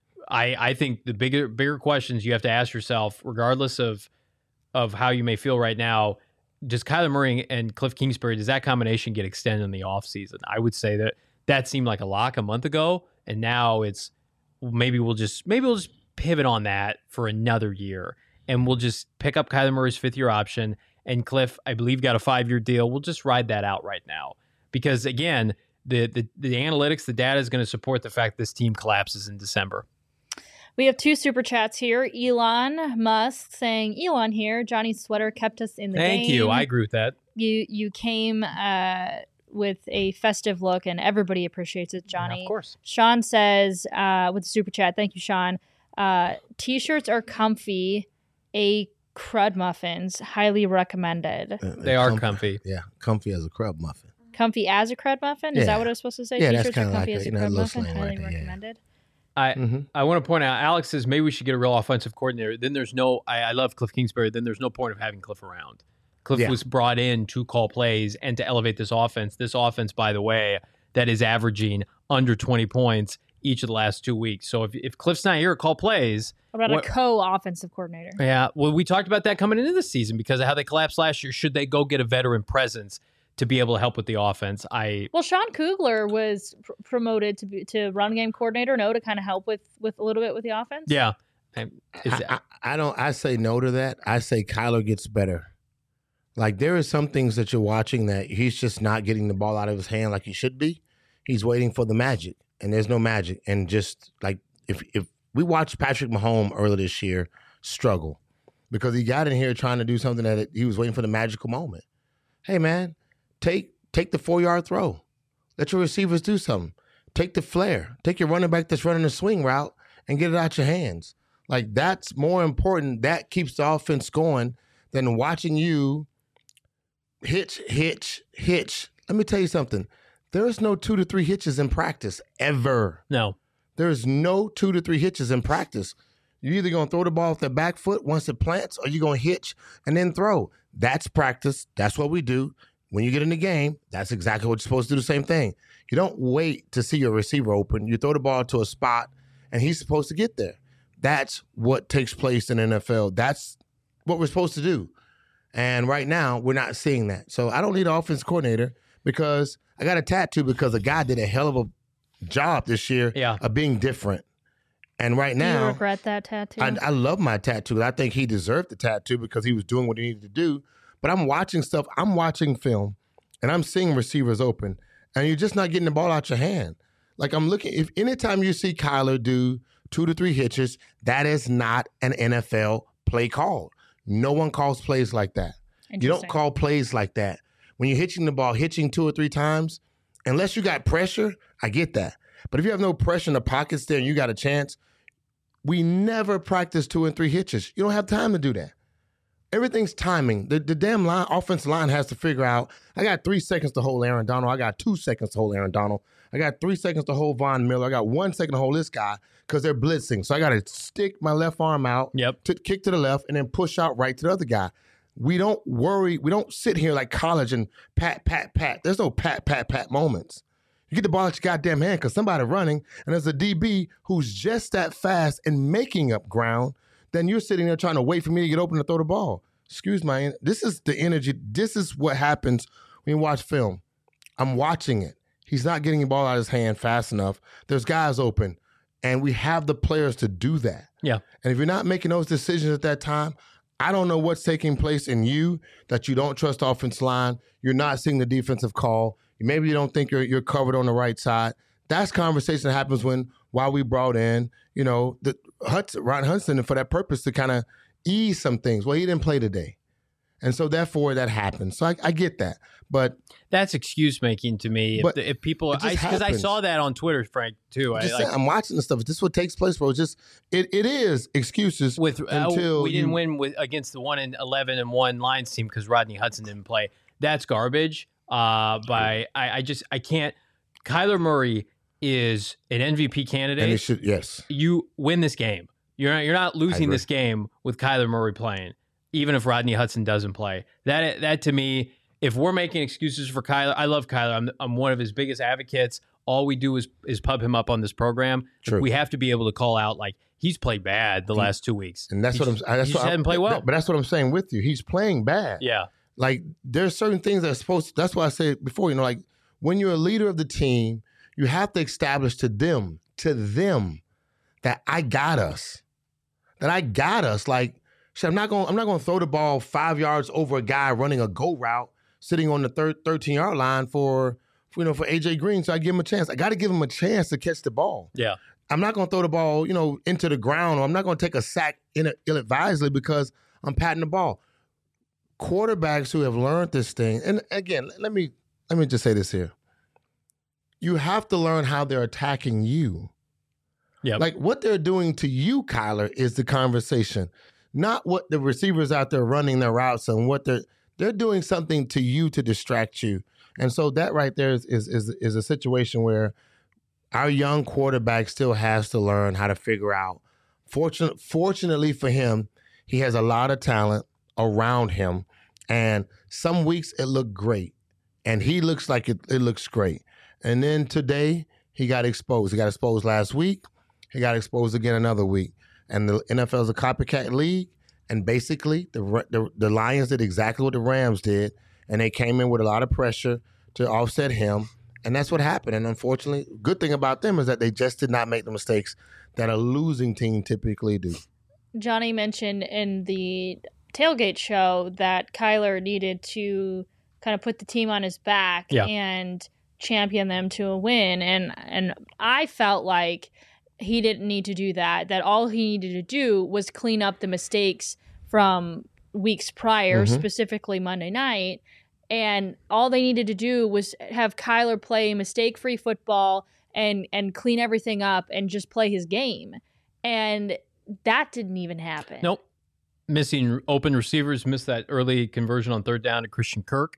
I, I think the bigger bigger questions you have to ask yourself, regardless of of how you may feel right now, does Kyler Murray and Cliff Kingsbury, does that combination get extended in the offseason? I would say that that seemed like a lock a month ago, and now it's maybe we'll just maybe we'll just pivot on that for another year, and we'll just pick up Kyler Murray's fifth year option. And Cliff, I believe, got a five year deal. We'll just ride that out right now because again, the the, the analytics, the data is going to support the fact this team collapses in December. We have two super chats here. Elon Musk saying, Elon here, Johnny's sweater kept us in the Thank game. Thank you. I agree with that. You you came uh, with a festive look, and everybody appreciates it, Johnny. Yeah, of course. Sean says, uh, with the super chat, thank you, Sean. Uh, T-shirts are comfy. A crud muffins, highly recommended. Uh, they are comfy. Yeah, comfy as a crud muffin. Comfy as a crud muffin? Is Yeah. that what I was supposed to say? Yeah, T-shirts that's are kinda comfy like as a, a you know, crud little muffin, slang highly right there, yeah. recommended. I Mm-hmm. I want to point out, Alex says maybe we should get a real offensive coordinator. Then there's no, I, I love Cliff Kingsbury. Then there's no point of having Cliff around. Cliff Yeah. was brought in to call plays and to elevate this offense. This offense, by the way, that is averaging under twenty points each of the last two weeks. So if, if Cliff's not here to call plays. What about what, a co-offensive coordinator? Yeah, well, we talked about that coming into the season because of how they collapsed last year. Should they go get a veteran presence to be able to help with the offense? I Well, Sean Kugler was pr- promoted to be, to run game coordinator, no, to kind of help with, with a little bit with the offense. Yeah. I, is I, I, I don't. I say no to that. I say Kyler gets better. Like there is some things that you're watching that he's just not getting the ball out of his hand like he should be. He's waiting for the magic, and there's no magic. And just like if if we watched Patrick Mahomes earlier this year struggle because he got in here trying to do something that he was waiting for the magical moment. Hey man, take take the four yard throw. Let your receivers do something. Take the flare. Take your running back that's running a swing route and get it out your hands. Like that's more important. That keeps the offense going than watching you hitch, hitch, hitch. Let me tell you something. There is no two to three hitches in practice ever. no. There is no two to three hitches in practice. You're either going to throw the ball off the back foot once it plants or you're going to hitch and then throw. That's practice. That's what we do. When you get in the game, that's exactly what you're supposed to do, the same thing. You don't wait to see your receiver open. You throw the ball to a spot and he's supposed to get there. That's what takes place in the N F L. That's what we're supposed to do. And right now, we're not seeing that. So I don't need an offense coordinator because I got a tattoo because a guy did a hell of a job this year Yeah. of being different. And right Do now, you regret that tattoo? I, I love my tattoo. I think he deserved the tattoo because he was doing what he needed to do. But I'm watching stuff. I'm watching film, and I'm seeing receivers open, and you're just not getting the ball out your hand. Like I'm looking. If anytime you see Kyler do two to three hitches, that is not an N F L play call. No one calls plays like that. You don't Interesting. call plays like that. When you're hitching the ball, hitching two or three times, unless you got pressure, I get that. But if you have no pressure in the pockets there and you got a chance, we never practice two and three hitches. You don't have time to do that. Everything's timing. The, the damn line, offensive line has to figure out, I got three seconds to hold Aaron Donald. I got two seconds to hold Aaron Donald. I got three seconds to hold Von Miller. I got one second to hold this guy because they're blitzing. So I got to stick my left arm out, Yep. to kick to the left, and then push out right to the other guy. We don't worry. We don't sit here like college and pat, pat, pat. There's no pat, pat, pat moments. You get the ball at your goddamn hand because somebody running, and there's a D B who's just that fast and making up ground, then you're sitting there trying to wait for me to get open to throw the ball. Excuse my, this is the energy. This is what happens when you watch film. I'm watching it. He's not getting the ball out of his hand fast enough. There's guys open, and we have the players to do that. Yeah. And if you're not making those decisions at that time, I don't know what's taking place in you that you don't trust the offensive line. You're not seeing the defensive call. Maybe you don't think you're you're covered on the right side. That's conversation that happens when while we brought in, you know, the Hudson, Ron Hudson for that purpose to kind of ease some things. Well, he didn't play today. And so therefore that happens. So I, I get that. But that's excuse making to me. If, if people, because I, I saw that on Twitter, Frank, too. I'm, I, like, I'm watching this stuff. This is what takes place, bro. It's just it, it is excuses with until uh, we didn't you, win with against the one and eleven and one Lions team because Rodney Hudson didn't play. That's garbage. Uh, by I, I just I can't. Kyler Murray is an M V P candidate. And it should, yes, you win this game. You're not you're not losing this game with Kyler Murray playing, even if Rodney Hudson doesn't play. That that to me. If we're making excuses for Kyler, I love Kyler. I'm I'm one of his biggest advocates. All we do is is pub him up on this program. True. We have to be able to call out like he's played bad the last two weeks, and that's he's, what I'm. That's he what just hadn't played well. But that's what I'm saying with you. He's playing bad. Yeah, like there's certain things that are supposed to, that's why I said before. You know, like when you're a leader of the team, you have to establish to them, to them, that I got us, that I got us. Like, shit, I'm not going. I'm not going to throw the ball five yards over a guy running a go route, sitting on the third thirteen yard line for, for you know for A J Green, so I give him a chance. I got to give him a chance to catch the ball. Yeah, I'm not going to throw the ball, you know, into the ground, or I'm not going to take a sack in ill-advisedly because I'm patting the ball. Quarterbacks who have learned this thing, and again, let me let me just say this here: you have to learn how they're attacking you. Yeah, like what they're doing to you, Kyler, is the conversation, not what the receivers out there running their routes and what they're. They're doing something to you to distract you. And so that right there is, is is is a situation where our young quarterback still has to learn how to figure out. Fortunate, fortunately for him, he has a lot of talent around him. And some weeks it looked great. And he looks like it, it looks great. And then today he got exposed. He got exposed last week. He got exposed again another week. And the N F L is a copycat league. And basically, the, the the Lions did exactly what the Rams did, and they came in with a lot of pressure to offset him, and that's what happened. And unfortunately, good thing about them is that they just did not make the mistakes that a losing team typically do. Johnny mentioned in the tailgate show that Kyler needed to kind of put the team on his back yeah. and champion them to a win, and and I felt like he didn't need to do that, that all he needed to do was clean up the mistakes from weeks prior, mm-hmm. specifically Monday night. And all they needed to do was have Kyler play mistake-free football and, and clean everything up and just play his game. And that didn't even happen. Nope. Missing open receivers, missed that early conversion on third down to Christian Kirk.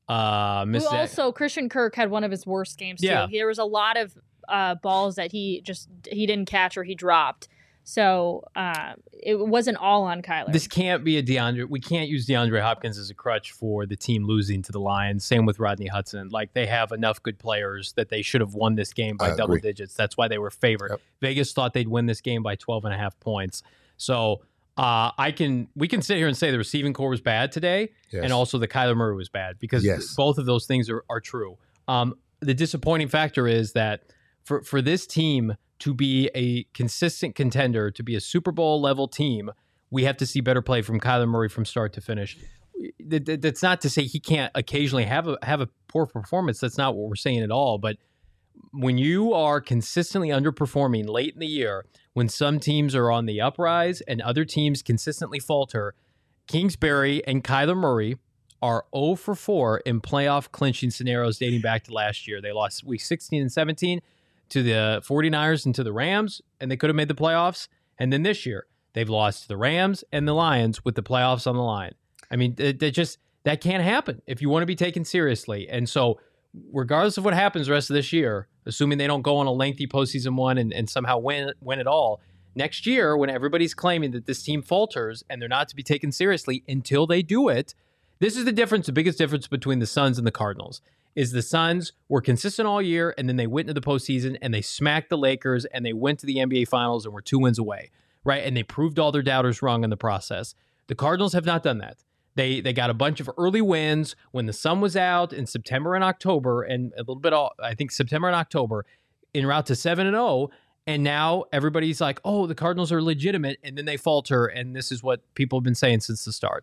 Uh, missed Who also, that. Christian Kirk had one of his worst games, too. Yeah. There was a lot of Uh, balls that he just he didn't catch or he dropped, so uh, it wasn't all on Kyler. This can't be a DeAndre. We can't use DeAndre Hopkins as a crutch for the team losing to the Lions. Same with Rodney Hudson. Like they have enough good players that they should have won this game by I double agree. digits. That's why they were favored. Yep. Vegas thought they'd win this game by twelve and a half points. So uh, I can we can sit here and say the receiving core was bad today, yes. and also the Kyler Murray was bad because yes. both of those things are are true. Um, the disappointing factor is that. For for this team to be a consistent contender, to be a Super Bowl level team, we have to see better play from Kyler Murray from start to finish. That's not to say he can't occasionally have a have a poor performance. That's not what we're saying at all. But when you are consistently underperforming late in the year, when some teams are on the uprise and other teams consistently falter, Kingsbury and Kyler Murray are zero for four in playoff clinching scenarios dating back to last year. They lost week sixteen and seventeen. To the 49ers and to the Rams, and they could have made the playoffs. And then this year, they've lost to the Rams and the Lions with the playoffs on the line. I mean, that just that can't happen if you want to be taken seriously. And so, regardless of what happens the rest of this year, assuming they don't go on a lengthy postseason one and, and somehow win win it all, next year, when everybody's claiming that this team falters and they're not to be taken seriously until they do it, this is the difference, the biggest difference between the Suns and the Cardinals. Is the Suns were consistent all year, and then they went into the postseason, and they smacked the Lakers, and they went to the N B A Finals and were two wins away, right? And they proved all their doubters wrong in the process. The Cardinals have not done that. They they got a bunch of early wins when the sun was out in September and October, and a little bit, all, I think September and October, en route to seven and oh, and now everybody's like, oh, the Cardinals are legitimate, and then they falter, and this is what people have been saying since the start.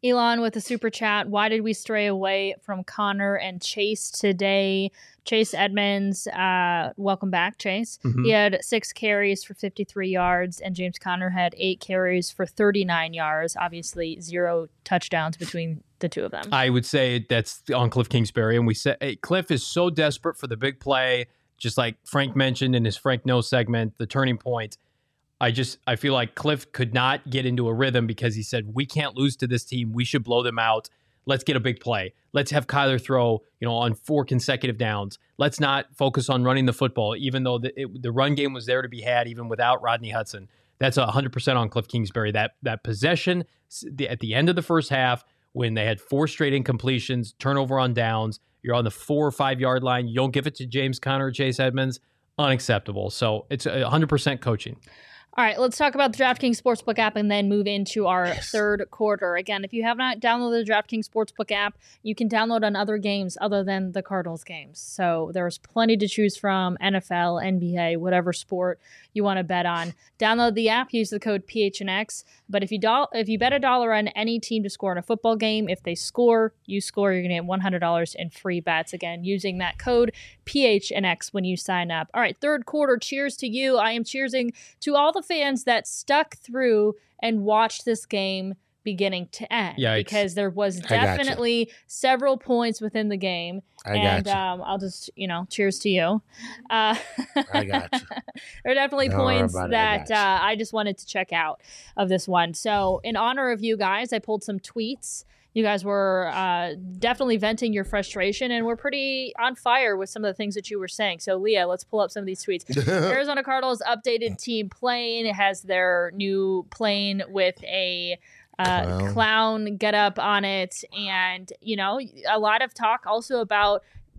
Elon with a super chat. Why did we stray away from Connor and Chase today? Chase Edmonds, uh, welcome back, Chase. Mm-hmm. He had six carries for fifty-three yards, and James Conner had eight carries for thirty-nine yards. Obviously, zero touchdowns between the two of them. I would say that's on Cliff Kingsbury, and we said hey, Cliff is so desperate for the big play, just like Frank mentioned in his Frank No segment, the turning point. I just I feel like Cliff could not get into a rhythm because he said, we can't lose to this team. We should blow them out. Let's get a big play. Let's have Kyler throw, you know, on four consecutive downs. Let's not focus on running the football, even though the, it, the run game was there to be had, even without Rodney Hudson. That's one hundred percent on Cliff Kingsbury. That that possession at the end of the first half, when they had four straight incompletions, turnover on downs, you're on the four or five yard line, you don't give it to James Conner or Chase Edmonds, unacceptable. So it's one hundred percent coaching. All right, let's talk about the DraftKings Sportsbook app and then move into our yes. third quarter. Again, if you have not downloaded the DraftKings Sportsbook app, you can download on other games other than the Cardinals games. So there's plenty to choose from, N F L, N B A, whatever sport you want to bet on. Download the app, use the code P H N X. But if you do- if you bet a dollar on any team to score in a football game, if they score, you score, you're going to get one hundred dollars in free bets. Again, using that code P H N X when you sign up. All right, third quarter, cheers to you. I am cheersing to all the fans that stuck through and watched this game beginning to end. Yikes. Because there was definitely several points within the game. I and got um, I'll just, you know, cheers to you. Uh, I got you. There are definitely Don't points that I, uh, I just wanted to check out of this one. So in honor of you guys, I pulled some tweets. You guys were uh, definitely venting your frustration, and we're pretty on fire with some of the things that you were saying. So, Leah, let's pull up some of these tweets. Arizona Cardinals updated team plane. It has their new plane with a uh, clown. clown get up on it. And, you know, a lot of talk also about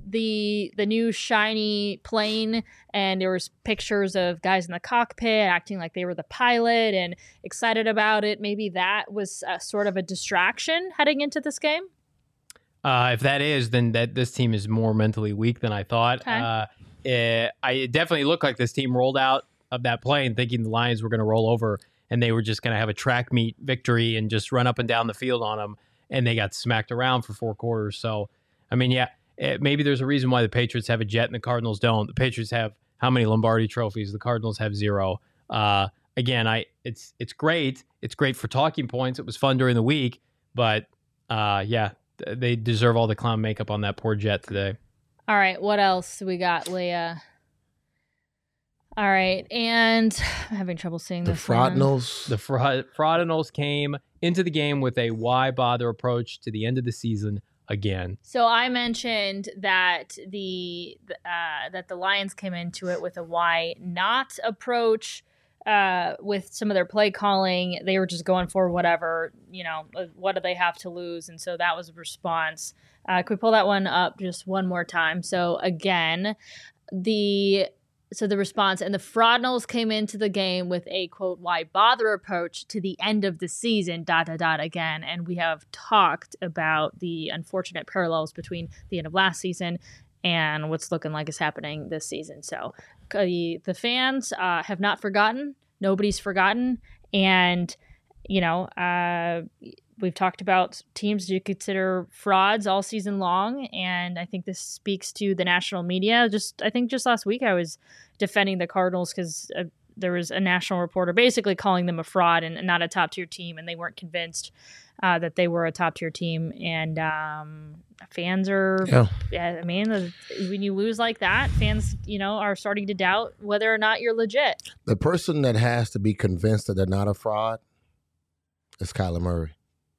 the the new shiny plane, and there was pictures of guys in the cockpit acting like they were the pilot and excited about it. Maybe that was a, sort of a distraction heading into this game. Uh, if that is, then that this team is more mentally weak than I thought. Okay. Uh, it, I it definitely looked like this team rolled out of that plane thinking the Lions were going to roll over and they were just going to have a track meet victory and just run up and down the field on them, and they got smacked around for four quarters. So, I mean, yeah. It, maybe there's a reason why the Patriots have a jet and the Cardinals don't. The Patriots have how many Lombardi trophies? The Cardinals have zero. Uh, again, I it's it's great. It's great for talking points. It was fun during the week, but uh, yeah, they deserve all the clown makeup on that poor jet today. All right, what else we got, Leah? All right, and I'm having trouble seeing the this. Fraudinals. The fraud, Fraudinals came into the game with a why bother approach to the end of the season. Again. So I mentioned that the uh, that the Lions came into it with a why not approach uh, with some of their play calling. They were just going for whatever, you know, what do they have to lose? And so that was a response. Uh, can we pull that one up just one more time? So again, the So the response, and the Fraudinals came into the game with a, quote, why bother approach to the end of the season, dot, dot, dot, again. And we have talked about the unfortunate parallels between the end of last season and what's looking like is happening this season. So uh, the, the fans uh, have not forgotten. Nobody's forgotten. And, you know, uh, we've talked about teams you consider frauds all season long, and I think this speaks to the national media. Just I think just last week I was defending the Cardinals because uh, there was a national reporter basically calling them a fraud and, and not a top-tier team, and they weren't convinced uh, that they were a top-tier team. And um, fans are, yeah. yeah, I mean, the, when you lose like that, fans, you know, are starting to doubt whether or not you're legit. The person that has to be convinced that they're not a fraud is Kyler Murray.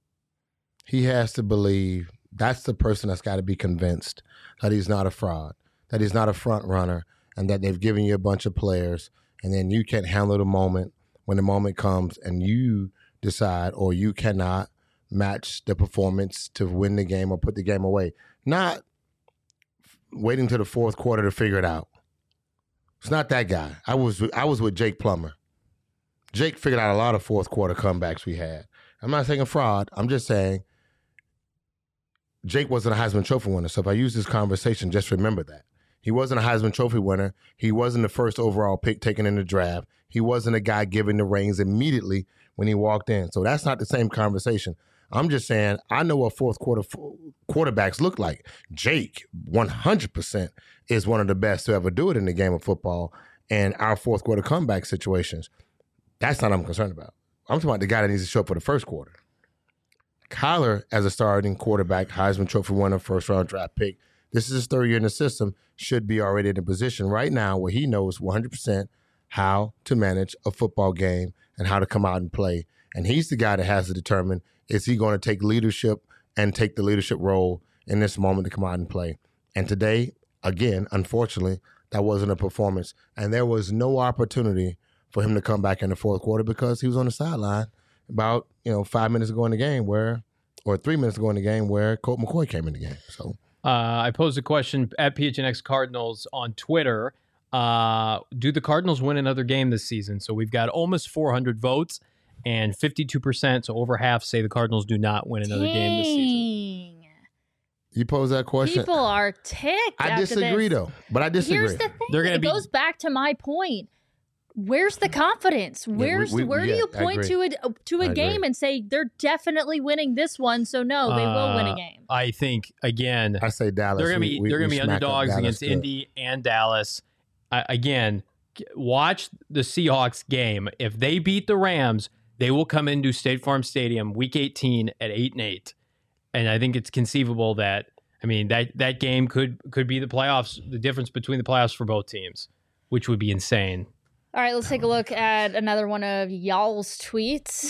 He has to believe that's the person that's got to be convinced that he's not a fraud, that he's not a front runner, and that they've given you a bunch of players, and then you can't handle the moment when the moment comes and you decide or you cannot match the performance to win the game or put the game away. Not waiting to the fourth quarter to figure it out. It's not that guy. I was I was with Jake Plummer. Jake figured out a lot of fourth quarter comebacks we had. I'm not saying a fraud. I'm just saying Jake wasn't a Heisman Trophy winner. So if I use this conversation, just remember that. He wasn't a Heisman Trophy winner. He wasn't the first overall pick taken in the draft. He wasn't a guy given the reins immediately when he walked in. So that's not the same conversation. I'm just saying I know what fourth quarter f- quarterbacks look like. Jake, one hundred percent, is one of the best to ever do it in the game of football. And our fourth quarter comeback situations, that's not what I'm concerned about. I'm talking about the guy that needs to show up for the first quarter. Kyler, as a starting quarterback, Heisman Trophy winner, first round draft pick, this is his third year in the system, should be already in a position right now where he knows one hundred percent how to manage a football game and how to come out and play. And he's the guy that has to determine, is he going to take leadership and take the leadership role in this moment to come out and play. And today, again, unfortunately, that wasn't a performance. And there was no opportunity for him to come back in the fourth quarter because he was on the sideline about, you know, five minutes ago in the game where, or three minutes ago in the game where Colt McCoy came in the game. So uh, I posed a question at P H N X Cardinals on Twitter. Uh, do the Cardinals win another game this season? So we've got almost four hundred votes and fifty-two percent, so over half say the Cardinals do not win another Dang. game this season. You pose that question. People are ticked. I after disagree, this. though. But I disagree. Here's the thing. They're gonna it be- goes back to my point. Where's the confidence? Where's we- we- where yeah, do you I point to agree. a to a I game agree. and say they're definitely winning this one? So no, they will win a Uh, game. I think, again, I say Dallas. they're going to We- be we- they're going we to be smack up underdogs Dallas against good. Indy and Dallas. I, again, g- watch the Seahawks game. If they beat the Rams, they will come into State Farm Stadium Week eighteen at eight and eight, and I think it's conceivable that I mean that that game could could be the playoffs, the difference between the playoffs for both teams, which would be insane. All right, let's take a look at another one of y'all's tweets.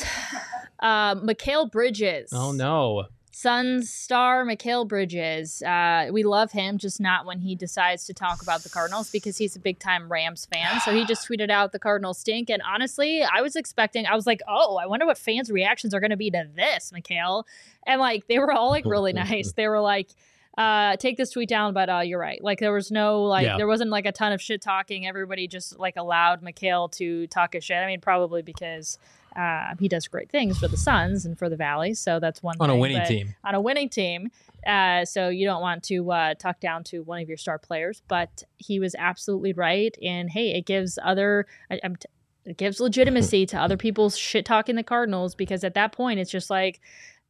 Uh, Mikal Bridges. Oh no. Suns star Mikal Bridges. Uh, we love him, just not when he decides to talk about the Cardinals because he's a big time Rams fan. So he just tweeted out the Cardinals stink. And honestly, I was expecting, I was like, oh, I wonder what fans' reactions are going to be to this, Mikal. And like, they were all like really nice. They were like, uh, take this tweet down, but uh, you're right. Like there was no, like, Yeah. there wasn't like a ton of shit talking. Everybody just like allowed Mikal to talk his shit. I mean, probably because Uh, he does great things for the Suns and for the Valley, so that's one On thing. a winning but team. On a winning team. Uh, so you don't want to uh, talk down to one of your star players, but he was absolutely right. And hey, it gives other, I, I'm t- it gives legitimacy to other people's shit talking the Cardinals because at that point it's just like,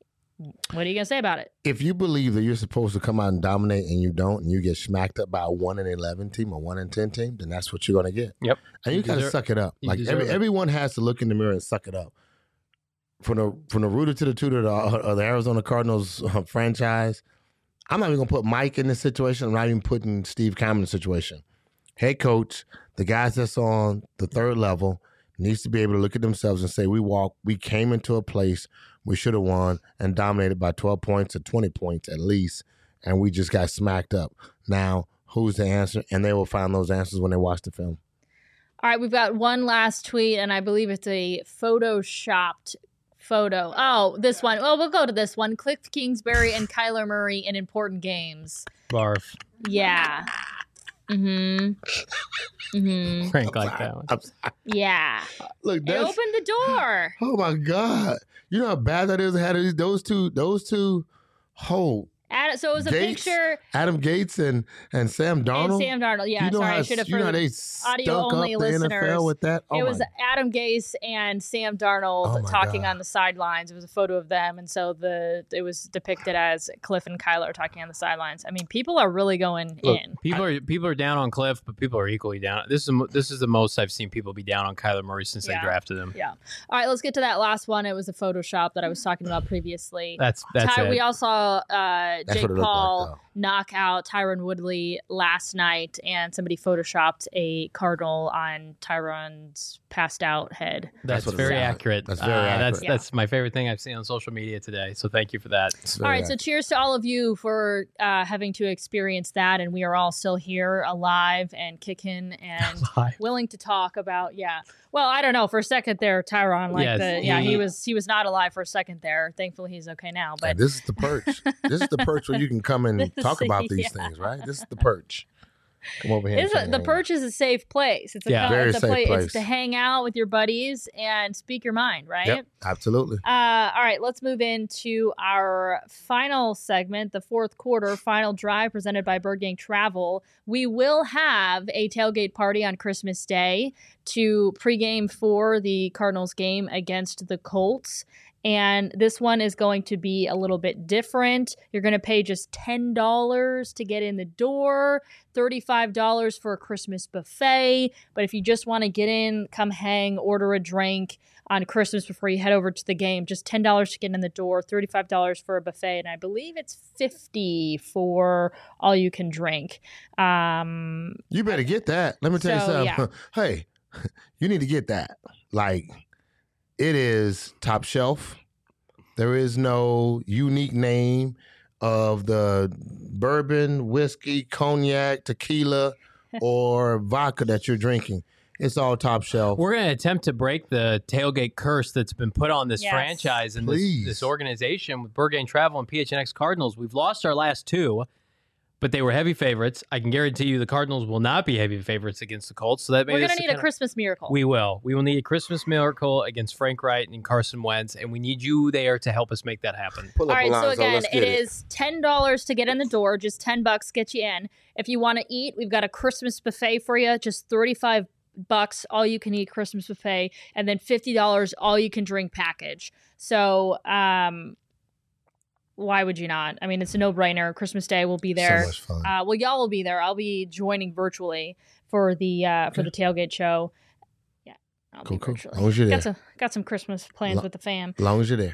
what are you gonna say about it? If you believe that you're supposed to come out and dominate and you don't, and you get smacked up by a one and eleven team or one and ten team, then that's what you're gonna get. Yep. And you, You gotta deserve- suck it up. you Like deserve every, it. everyone has to look in the mirror and suck it up. From the from the rooter to the tutor to, uh, the Arizona Cardinals uh, franchise, I'm not even gonna put Mike in this situation. I'm not even putting Steve Keim in the situation. Head coach, the guys that's on the third level needs to be able to look at themselves and say, we walk, we came into a place we should have won and dominated by twelve points or twenty points at least, and we just got smacked up. Now, who's the answer? And they will find those answers when they watch the film. All right, we've got one last tweet, and I believe it's a photoshopped photo. Oh, this one. Well, we'll go to this one. Cliff Kingsbury and Kyler Murray in important games. Barf. Yeah. Mm-hmm. Mm-hmm. Frank like that one. I'm sorry. Yeah. Look, It that's, opened the door. oh my God. You know how bad that is? Had those two, those two, oh, Ad- so it was a Gates, picture Adam Gates and, and Sam Darnold. and Sam Darnold. Yeah, you know sorry, how, I should have. you know how they audio stunk only up the N F L listeners. with that? Oh It was my Adam Gase and Sam Darnold Oh my talking God. on the sidelines. It was a photo of them, and so the it was depicted as Cliff and Kyler talking on the sidelines. I mean, people are really going Look, in. People are people are down on Cliff, but people are equally down. This is mo- this is the most I've seen people be down on Kyler Murray since Yeah. they drafted him. Yeah. All right, let's get to that last one. It was a Photoshop that I was talking about previously. That's that's Ty, it. we all saw uh, That's Jake what it looked Paul like, though. knock out Tyron Woodley last night, and somebody photoshopped a cardinal on Tyron's passed out head. That's, That's what it very looked like. accurate. That's very Uh, That's accurate. Yeah. that's my favorite thing I've seen on social media today. So thank you for that. It's All very right, so accurate. cheers to all of you for uh, having to experience that, and we are all still here, alive and kicking and willing to talk about. Yeah, well, I don't know. For a second there, Tyron, like Yes, the yeah, he, he- was he was not alive for a second there. Thankfully, he's okay now. Yeah, But this is the perch. This is the perch where you can come and This talk is- about these yeah. things, right? This is the perch. Come over here. and It's say, a, the hey, perch is a safe place. It's a, Yeah. co- Very it's a safe place. place. It's to hang out with your buddies and speak your mind, right? Yep, absolutely. Uh, all right, let's move into our final segment, the fourth quarter final drive presented by Bird Gang Travel. We will have a tailgate party on Christmas Day to pregame for the Cardinals game against the Colts. And this one is going to be a little bit different. You're going to pay just ten dollars to get in the door, thirty-five dollars for a Christmas buffet. But if you just want to get in, come hang, order a drink on Christmas before you head over to the game, just ten dollars to get in the door, thirty-five dollars for a buffet, and I believe it's fifty dollars for all you can drink. Um, you better get that. Let me tell so, you something. Yeah. Hey, you need to get that. Like, it is top shelf. There is no unique name of the bourbon, whiskey, cognac, tequila, or vodka that you're drinking. It's all top shelf. We're going to attempt to break the tailgate curse that's been put on this Yes. franchise and this, Please. this organization with Burgain Travel and P H N X Cardinals. We've lost our last two, but they were heavy favorites. I can guarantee you the Cardinals will not be heavy favorites against the Colts. So that We're going going to need a Christmas miracle. We will. We will need a Christmas miracle against Frank Wright and Carson Wentz, and we need you there to help us make that happen. Pull All up right, so Alonzo. again, Let's it get it is ten dollars to get in the door, just ten bucks get you in. If you want to eat, we've got a Christmas buffet for you, just thirty-five bucks all you can eat Christmas buffet, and then fifty dollars all you can drink package. So, um why would you not? I mean, it's a no-brainer. Christmas Day will be there. So much fun. Uh, well, y'all will be there. I'll be joining virtually for the uh, for the tailgate show. Yeah, I'll Cool, be cool. virtually. As long as you're there. Got some got some Christmas plans Lo- with the fam. As long as you're there.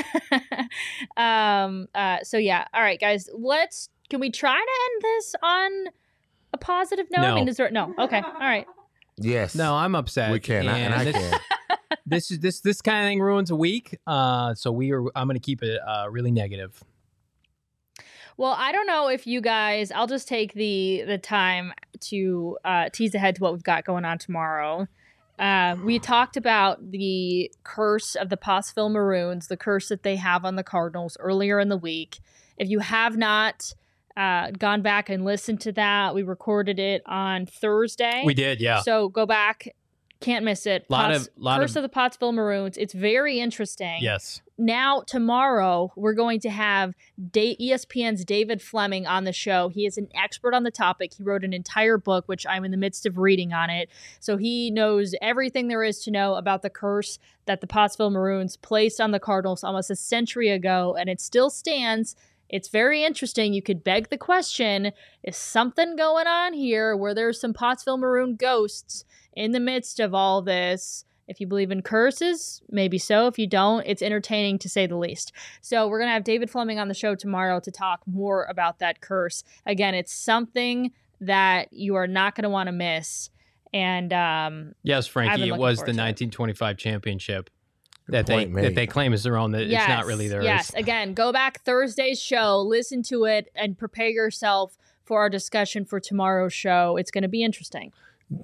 um. Uh. So yeah. All right, guys. Let's. Can we try to end this on a positive note? I No. mean, is there no? Okay. All right. Yes. No, I'm upset. we can. I, and I this, can. this is this this kind of thing ruins a week. Uh, so we are. I'm going to keep it uh, really negative. Well, I don't know if you guys. I'll just take the the time to uh, tease ahead to what we've got going on tomorrow. Uh, we talked about the curse of the Pottsville Maroons, the curse that they have on the Cardinals earlier in the week. If you have not uh, gone back and listened to that, we recorded it on Thursday. We did, yeah. So go back. Can't miss it. Lot Potts- of- lot Curse of- of the Pottsville Maroons. It's very interesting. Yes. Now, tomorrow, we're going to have Da- E S P N's David Fleming on the show. He is an expert on the topic. He wrote an entire book, which I'm in the midst of reading on it. So he knows everything there is to know about the curse that the Pottsville Maroons placed on the Cardinals almost a century ago, and it still stands. It's very interesting. You could beg the question, is something going on here where there's some Pottsville Maroon ghosts in the midst of all this? If you believe in curses, maybe so. If you don't, it's entertaining to say the least. So we're going to have David Fleming on the show tomorrow to talk more about that curse. Again, it's something that you are not going to want to miss. And um, Yes, I've Frankie, been it looking was forward the to it. nineteen twenty-five championship that they point made. that they claim is their own. That yes, it's not really theirs. Yes, again, go back Thursday's show, listen to it, and prepare yourself for our discussion for tomorrow's show. It's going to be interesting.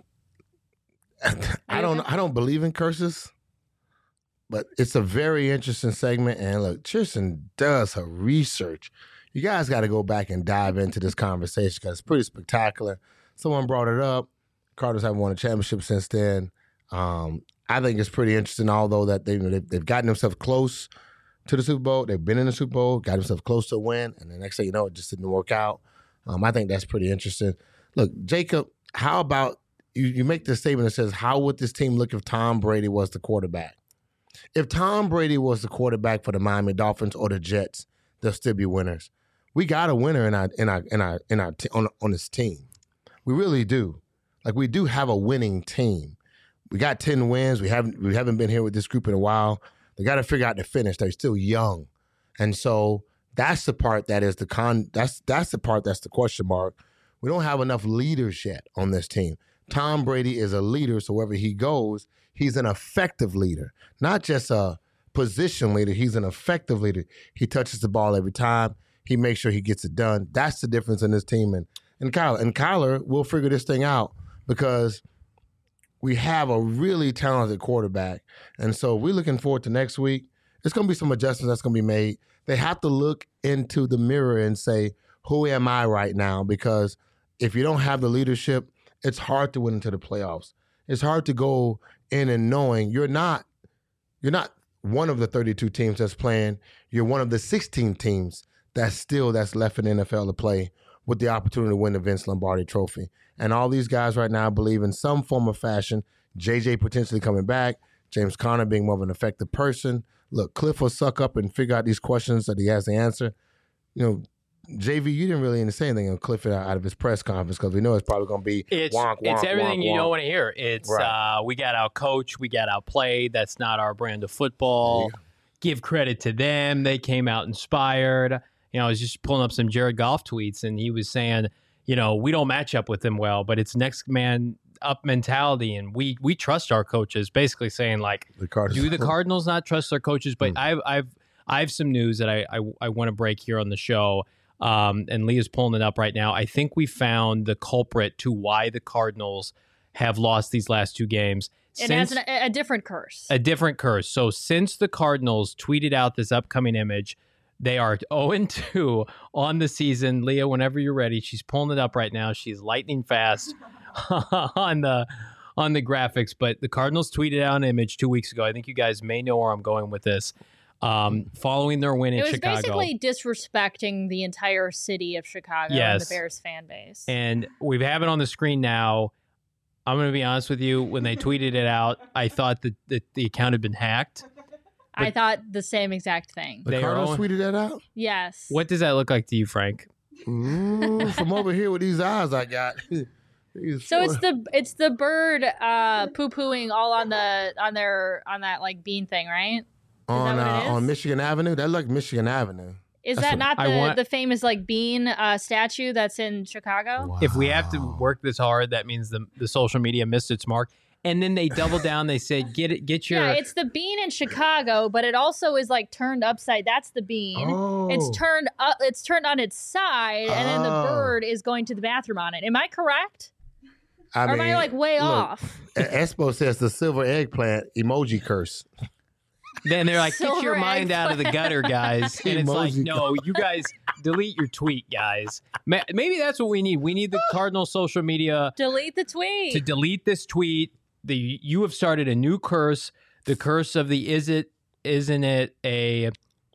I don't. I don't believe in curses, but it's a very interesting segment. And look, Tristan does her research. You guys got to go back and dive into this conversation because it's pretty spectacular. Someone brought it up. Cardinals haven't won a championship since then. Um, I think it's pretty interesting, although that they, they've, they've gotten themselves close to the Super Bowl. They've been in the Super Bowl, got themselves close to a win, and the next thing you know, it just didn't work out. Um, I think that's pretty interesting. Look, Jacob, how about you, you make this statement that says, how would this team look if Tom Brady was the quarterback? If Tom Brady was the quarterback for the Miami Dolphins or the Jets, they'll still be winners. We got a winner in our in our in our in our t- on on this team. We really do. Like, we do have a winning team. We got ten wins. We haven't we haven't been here with this group in a while. They got to figure out the finish. They're still young, and so that's the part that is the con. That's that's the part that's the question mark. We don't have enough leaders yet on this team. Tom Brady is a leader, so wherever he goes, he's an effective leader, not just a position leader. He's an effective leader. He touches the ball every time. He makes sure he gets it done. That's the difference in this team and and Kyler. And Kyler will figure this thing out because we have a really talented quarterback. And so we're looking forward to next week. There's going to be some adjustments that's going to be made. They have to look into the mirror and say, who am I right now? Because if you don't have the leadership, it's hard to win into the playoffs. It's hard to go in and knowing you're not you're not one of the thirty-two teams that's playing. You're one of the sixteen teams that's still that's left in the N F L to play with the opportunity to win the Vince Lombardi Trophy. And all these guys right now believe in some form of fashion, J J potentially coming back, James Conner being more of an effective person. Look, Cliff will suck up and figure out these questions that he has to answer. You know, J V, you didn't really say anything on Cliff out of his press conference because we know it's probably going to be it's, wonk, wonk, It's everything wonk, you wonk. don't want to hear. It's right. uh, we got out-coached, we got outplayed. That's not our brand of football. Give credit to them. They came out inspired. You know, I was just pulling up some Jared Goff tweets, and he was saying, you know, we don't match up with them well, but it's next man up mentality, and we we trust our coaches. Basically saying like, the Cardinals. do the Cardinals not trust their coaches? But Mm. I've I've I have some news that I I, I want to break here on the show. Um, and Leah's pulling it up right now. I think we found the culprit to why the Cardinals have lost these last two games. It Since, has an, a different curse. a different curse. So since the Cardinals tweeted out this upcoming image, they are oh and two on the season. Leah, whenever you're ready, she's pulling it up right now. She's lightning fast on the on the graphics. But the Cardinals tweeted out an image two weeks ago. I think you guys may know where I'm going with this. Um, following their win in it was Chicago. basically disrespecting the entire city of Chicago Yes. and the Bears fan base. And we have it on the screen now. I'm going to be honest with you. When they tweeted it out, I thought that, that the account had been hacked. I but- thought the same exact thing. The They are Cardinals on- tweeted that out? Yes. What does that look like to you, Frank? Mm, from over here with these eyes I got. These So four- it's the it's the bird uh, poo pooing all on the on their on that like bean thing, right? on, that what uh, it is? on Michigan Avenue. That looked Michigan Avenue. Is That's that what- not I the, want- the famous like bean uh, statue that's in Chicago? If we have to Wow. work this hard, that means the the social media missed its mark. And then they doubled down. They said, "Get it, get your." Yeah, it's the bean in Chicago, but it also is like turned upside. That's the bean. Oh. It's turned up. It's turned on its side, and then the Oh. bird is going to the bathroom on it. Am I correct? I or am I like way look, off? E- Espo says the silver eggplant emoji curse. Then they're like, "Get your Silver mind out of the gutter, guys." And it's like, Emoji no, you guys delete your tweet, guys. Ma- Maybe that's what we need. We need the Cardinal social media Delete the tweet. to delete this tweet. The you have started a new curse. The curse of the is it isn't it a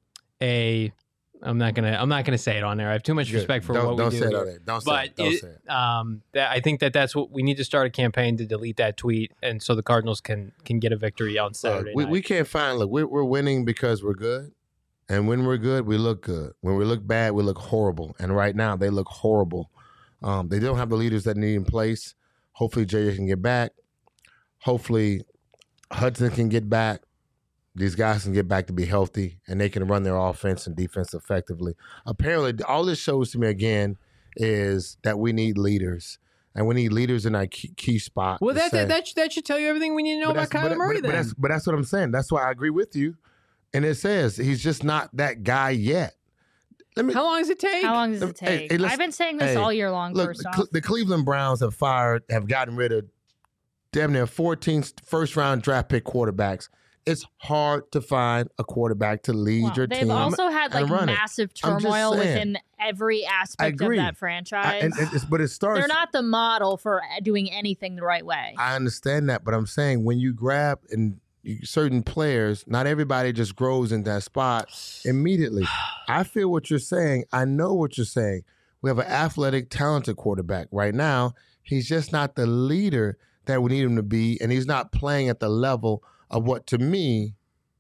a I'm not gonna I'm not gonna say it on there. I have too much Good. respect for don't, what don't we say do it here. on there. Don't say But it. Don't it- say it. um, that, I think that that's what we need to start a campaign to delete that tweet, and so the Cardinals can can get a victory on Uh, Saturday we, night. we can't find look we're, we're winning because we're good, and when we're good we look good. When we look bad we look horrible, and right now they look horrible. Um, they don't have the leaders that need in place. Hopefully J J can get back. Hopefully Hudson can get back. These guys can get back to be healthy, and they can run their offense and defense effectively. Apparently all this shows to me again is that we need leaders, and we need leaders in our key, key spot. well, to that, say- that that should, that should tell you everything we need to know but about that's- Kyler but- Murray. But, then but that's, but that's what I'm saying. That's why I agree with you. And it says he's just not that guy yet. Let me how long does it take? How long does it Hey, take? hey, let's- I've been saying this hey, all year long. look. First The, off, Cle- the Cleveland Browns have fired, have gotten rid of damn near fourteen first round draft pick quarterbacks. It's hard to find a quarterback to lead Well, your they've team. also had and like run it. massive I'm just turmoil saying. within every aspect of agree. that I- franchise. and, and it's, but it starts. They're not the model for doing anything the right way. I understand that, but I'm saying when you grab and you, certain players, not everybody just grows in that spot immediately. I feel what you're saying. I know what you're saying. We have an athletic, talented quarterback right now. He's just not the leader that we need him to be, and he's not playing at the level of what, to me,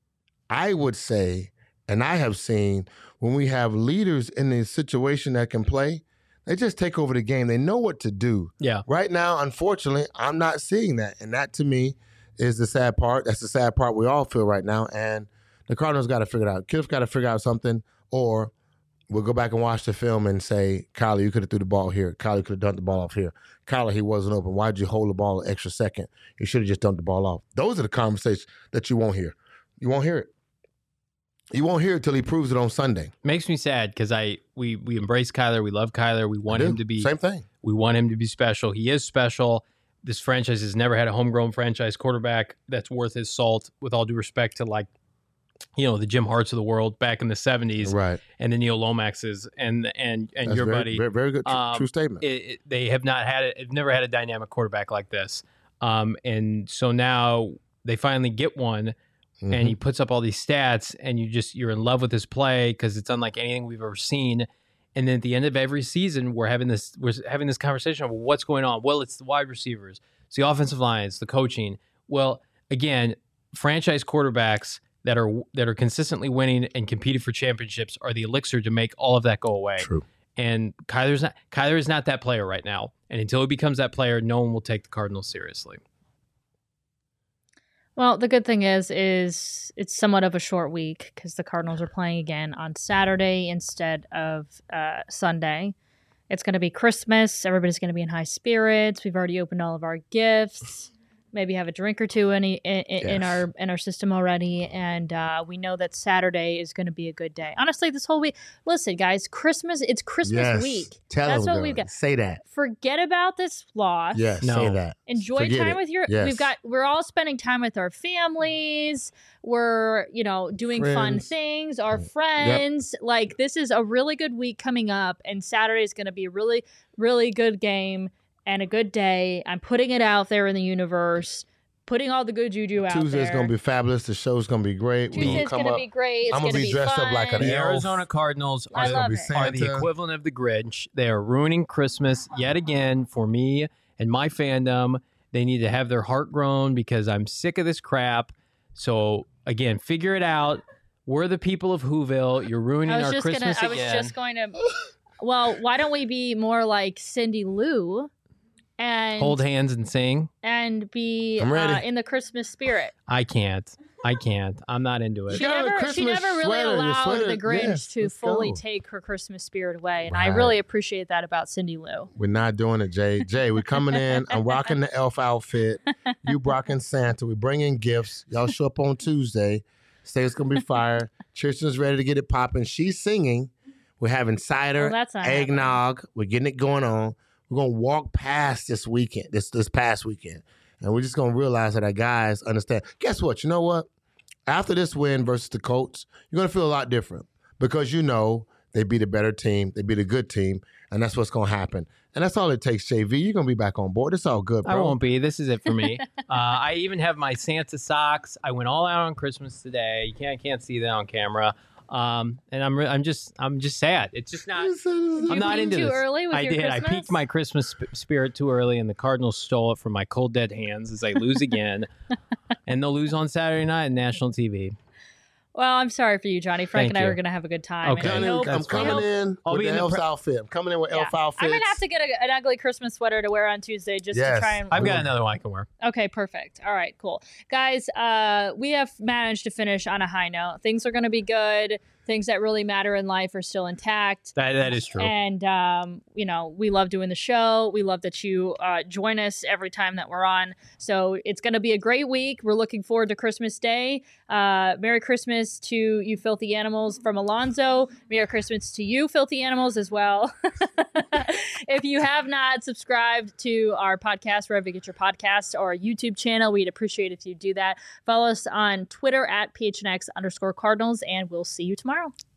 I would say, and I have seen when we have leaders in the situation that can play, they just take over the game. They know what to do. Yeah. Right now, unfortunately, I'm not seeing that. And that to me is the sad part. That's the sad part we all feel right now. And the Cardinals got to figure it out. Cliff got to figure out something, or we'll go back and watch the film and say, Kyler, you could have threw the ball here. Kyler could have dumped the ball off here. Kyler, he wasn't open. Why'd you hold the ball an extra second? You should have just dumped the ball off. Those are the conversations that you won't hear. You won't hear it. You won't hear it till he proves it on Sunday. Makes me sad because I we we embrace Kyler. We love Kyler. We want I him do. to be Same thing. We want him to be special. He is special. This franchise has never had a homegrown franchise quarterback that's worth his salt, with all due respect to, like, you know, the Jim Harts of the world back in the seventies, Right. and the Neil Lomaxes and and and That's your very, buddy. Very, very good. Tr- Um, true statement. It, it- they have not had it. They've never had a dynamic quarterback like this. Um, and so now they finally get one, Mhm. and he puts up all these stats, and you just you're in love with his play because it's unlike anything we've ever seen. And then at the end of every season, we're having this we're having this conversation of what's going on. Well, it's the wide receivers, it's the offensive line, it's the coaching. Well, again, franchise quarterbacks that are that are consistently winning and competing for championships are the elixir to make all of that go away. True. And Kyler's not Kyler is not that player right now. And until he becomes that player, no one will take the Cardinals seriously. Well, the good thing is, is it's somewhat of a short week because the Cardinals are playing again on Saturday instead of uh, Sunday. It's going to be Christmas. Everybody's going to be in high spirits. We've already opened all of our gifts. Maybe have a drink or two in, in, in, Yes. in our in our system already, and uh, we know that Saturday is going to be a good day. Honestly, this whole week. Listen, guys, Christmas. It's Christmas Yes. week. Tell That's them, what we've girl. got. Say that. Forget about this loss. Yes, No. say that. Enjoy Forget time it. with your. Yes. We've got. We're all spending time with our families. We're you know doing fun Friends. things. Our friends. Like this is a really good week coming up, and Saturday is going to be a really really good game and a good day. I'm putting it out there in the universe. Putting all the good juju out Tuesday's there. gonna be fabulous. The show's gonna be great. We Tuesday's come gonna up. be great. It's I'm gonna gonna be dressed up fun. like an The elf. Arizona Cardinals I are, love be it. are the Santa. equivalent of the Grinch. They are ruining Christmas yet again for me and my fandom. They need to have their heart grown because I'm sick of this crap. So again, figure it out. We're the people of Whoville. You're ruining I was our just Christmas gonna. I was again. just going to. Well, why don't we be more like Cindy Lou, and Hold hands and sing. and be I'm ready. uh, in the Christmas spirit? I can't. I can't. I'm not into it. She You got a never, she Christmas never really sweater, your allowed sweater- the Grinch yes, to let's fully go. take her Christmas spirit away, and I Right. really appreciate that about Cindy Lou. We're not doing it, Jay. Jay, we're coming in. I'm rocking the elf outfit. You rocking Santa. We're bringing gifts. Y'all show up on Tuesday. Say it's gonna be fire. Tristan's ready to get it popping. She's singing. We're having cider, Well, that's not happening. eggnog. We're getting it going on. We're gonna walk past this weekend, this this past weekend, and we're just gonna realize that our guys understand. Guess what? You know what? After this win versus the Colts, you're gonna feel a lot different because you know they beat a better team, they beat a good team, and that's what's gonna happen. And that's all it takes, J V. You're gonna be back on board. It's all good, bro. I won't be. This is it for me. uh, I even have my Santa socks. I went all out on Christmas today. You can't can't see that on camera. Um, and I'm re- I'm just I'm just sad. It's just not. Did I'm you not peak into too this. early with I your did. Christmas? I peaked my Christmas sp- spirit too early, and the Cardinals stole it from my cold dead hands as I lose again, and they'll lose on Saturday night on national T V. Well, I'm sorry for you, Johnny. Frank Thank and I you. were going to have a good time. Okay. and I Johnny, hope- I'm we coming hope- in I'll with be the in the elf pre- outfit. I'm coming in with yeah. elf outfits. I'm going to have to get a, an ugly Christmas sweater to wear on Tuesday just Yes. to try and. I've got another one I can wear. Okay, perfect. All right, cool. Guys, uh, we have managed to finish on a high note. Things are going to be good. Things that really matter in life are still intact. That that is true. And, um, you know, we love doing the show. We love that you uh, join us every time that we're on. So it's going to be a great week. We're looking forward to Christmas Day. Uh, Merry Christmas to you filthy animals from Alonzo. Merry Christmas to you filthy animals as well. If you have not subscribed to our podcast, wherever you get your podcast, or our YouTube channel, we'd appreciate if you do that. Follow us on Twitter at P H N X underscore Cardinals, and we'll see you tomorrow.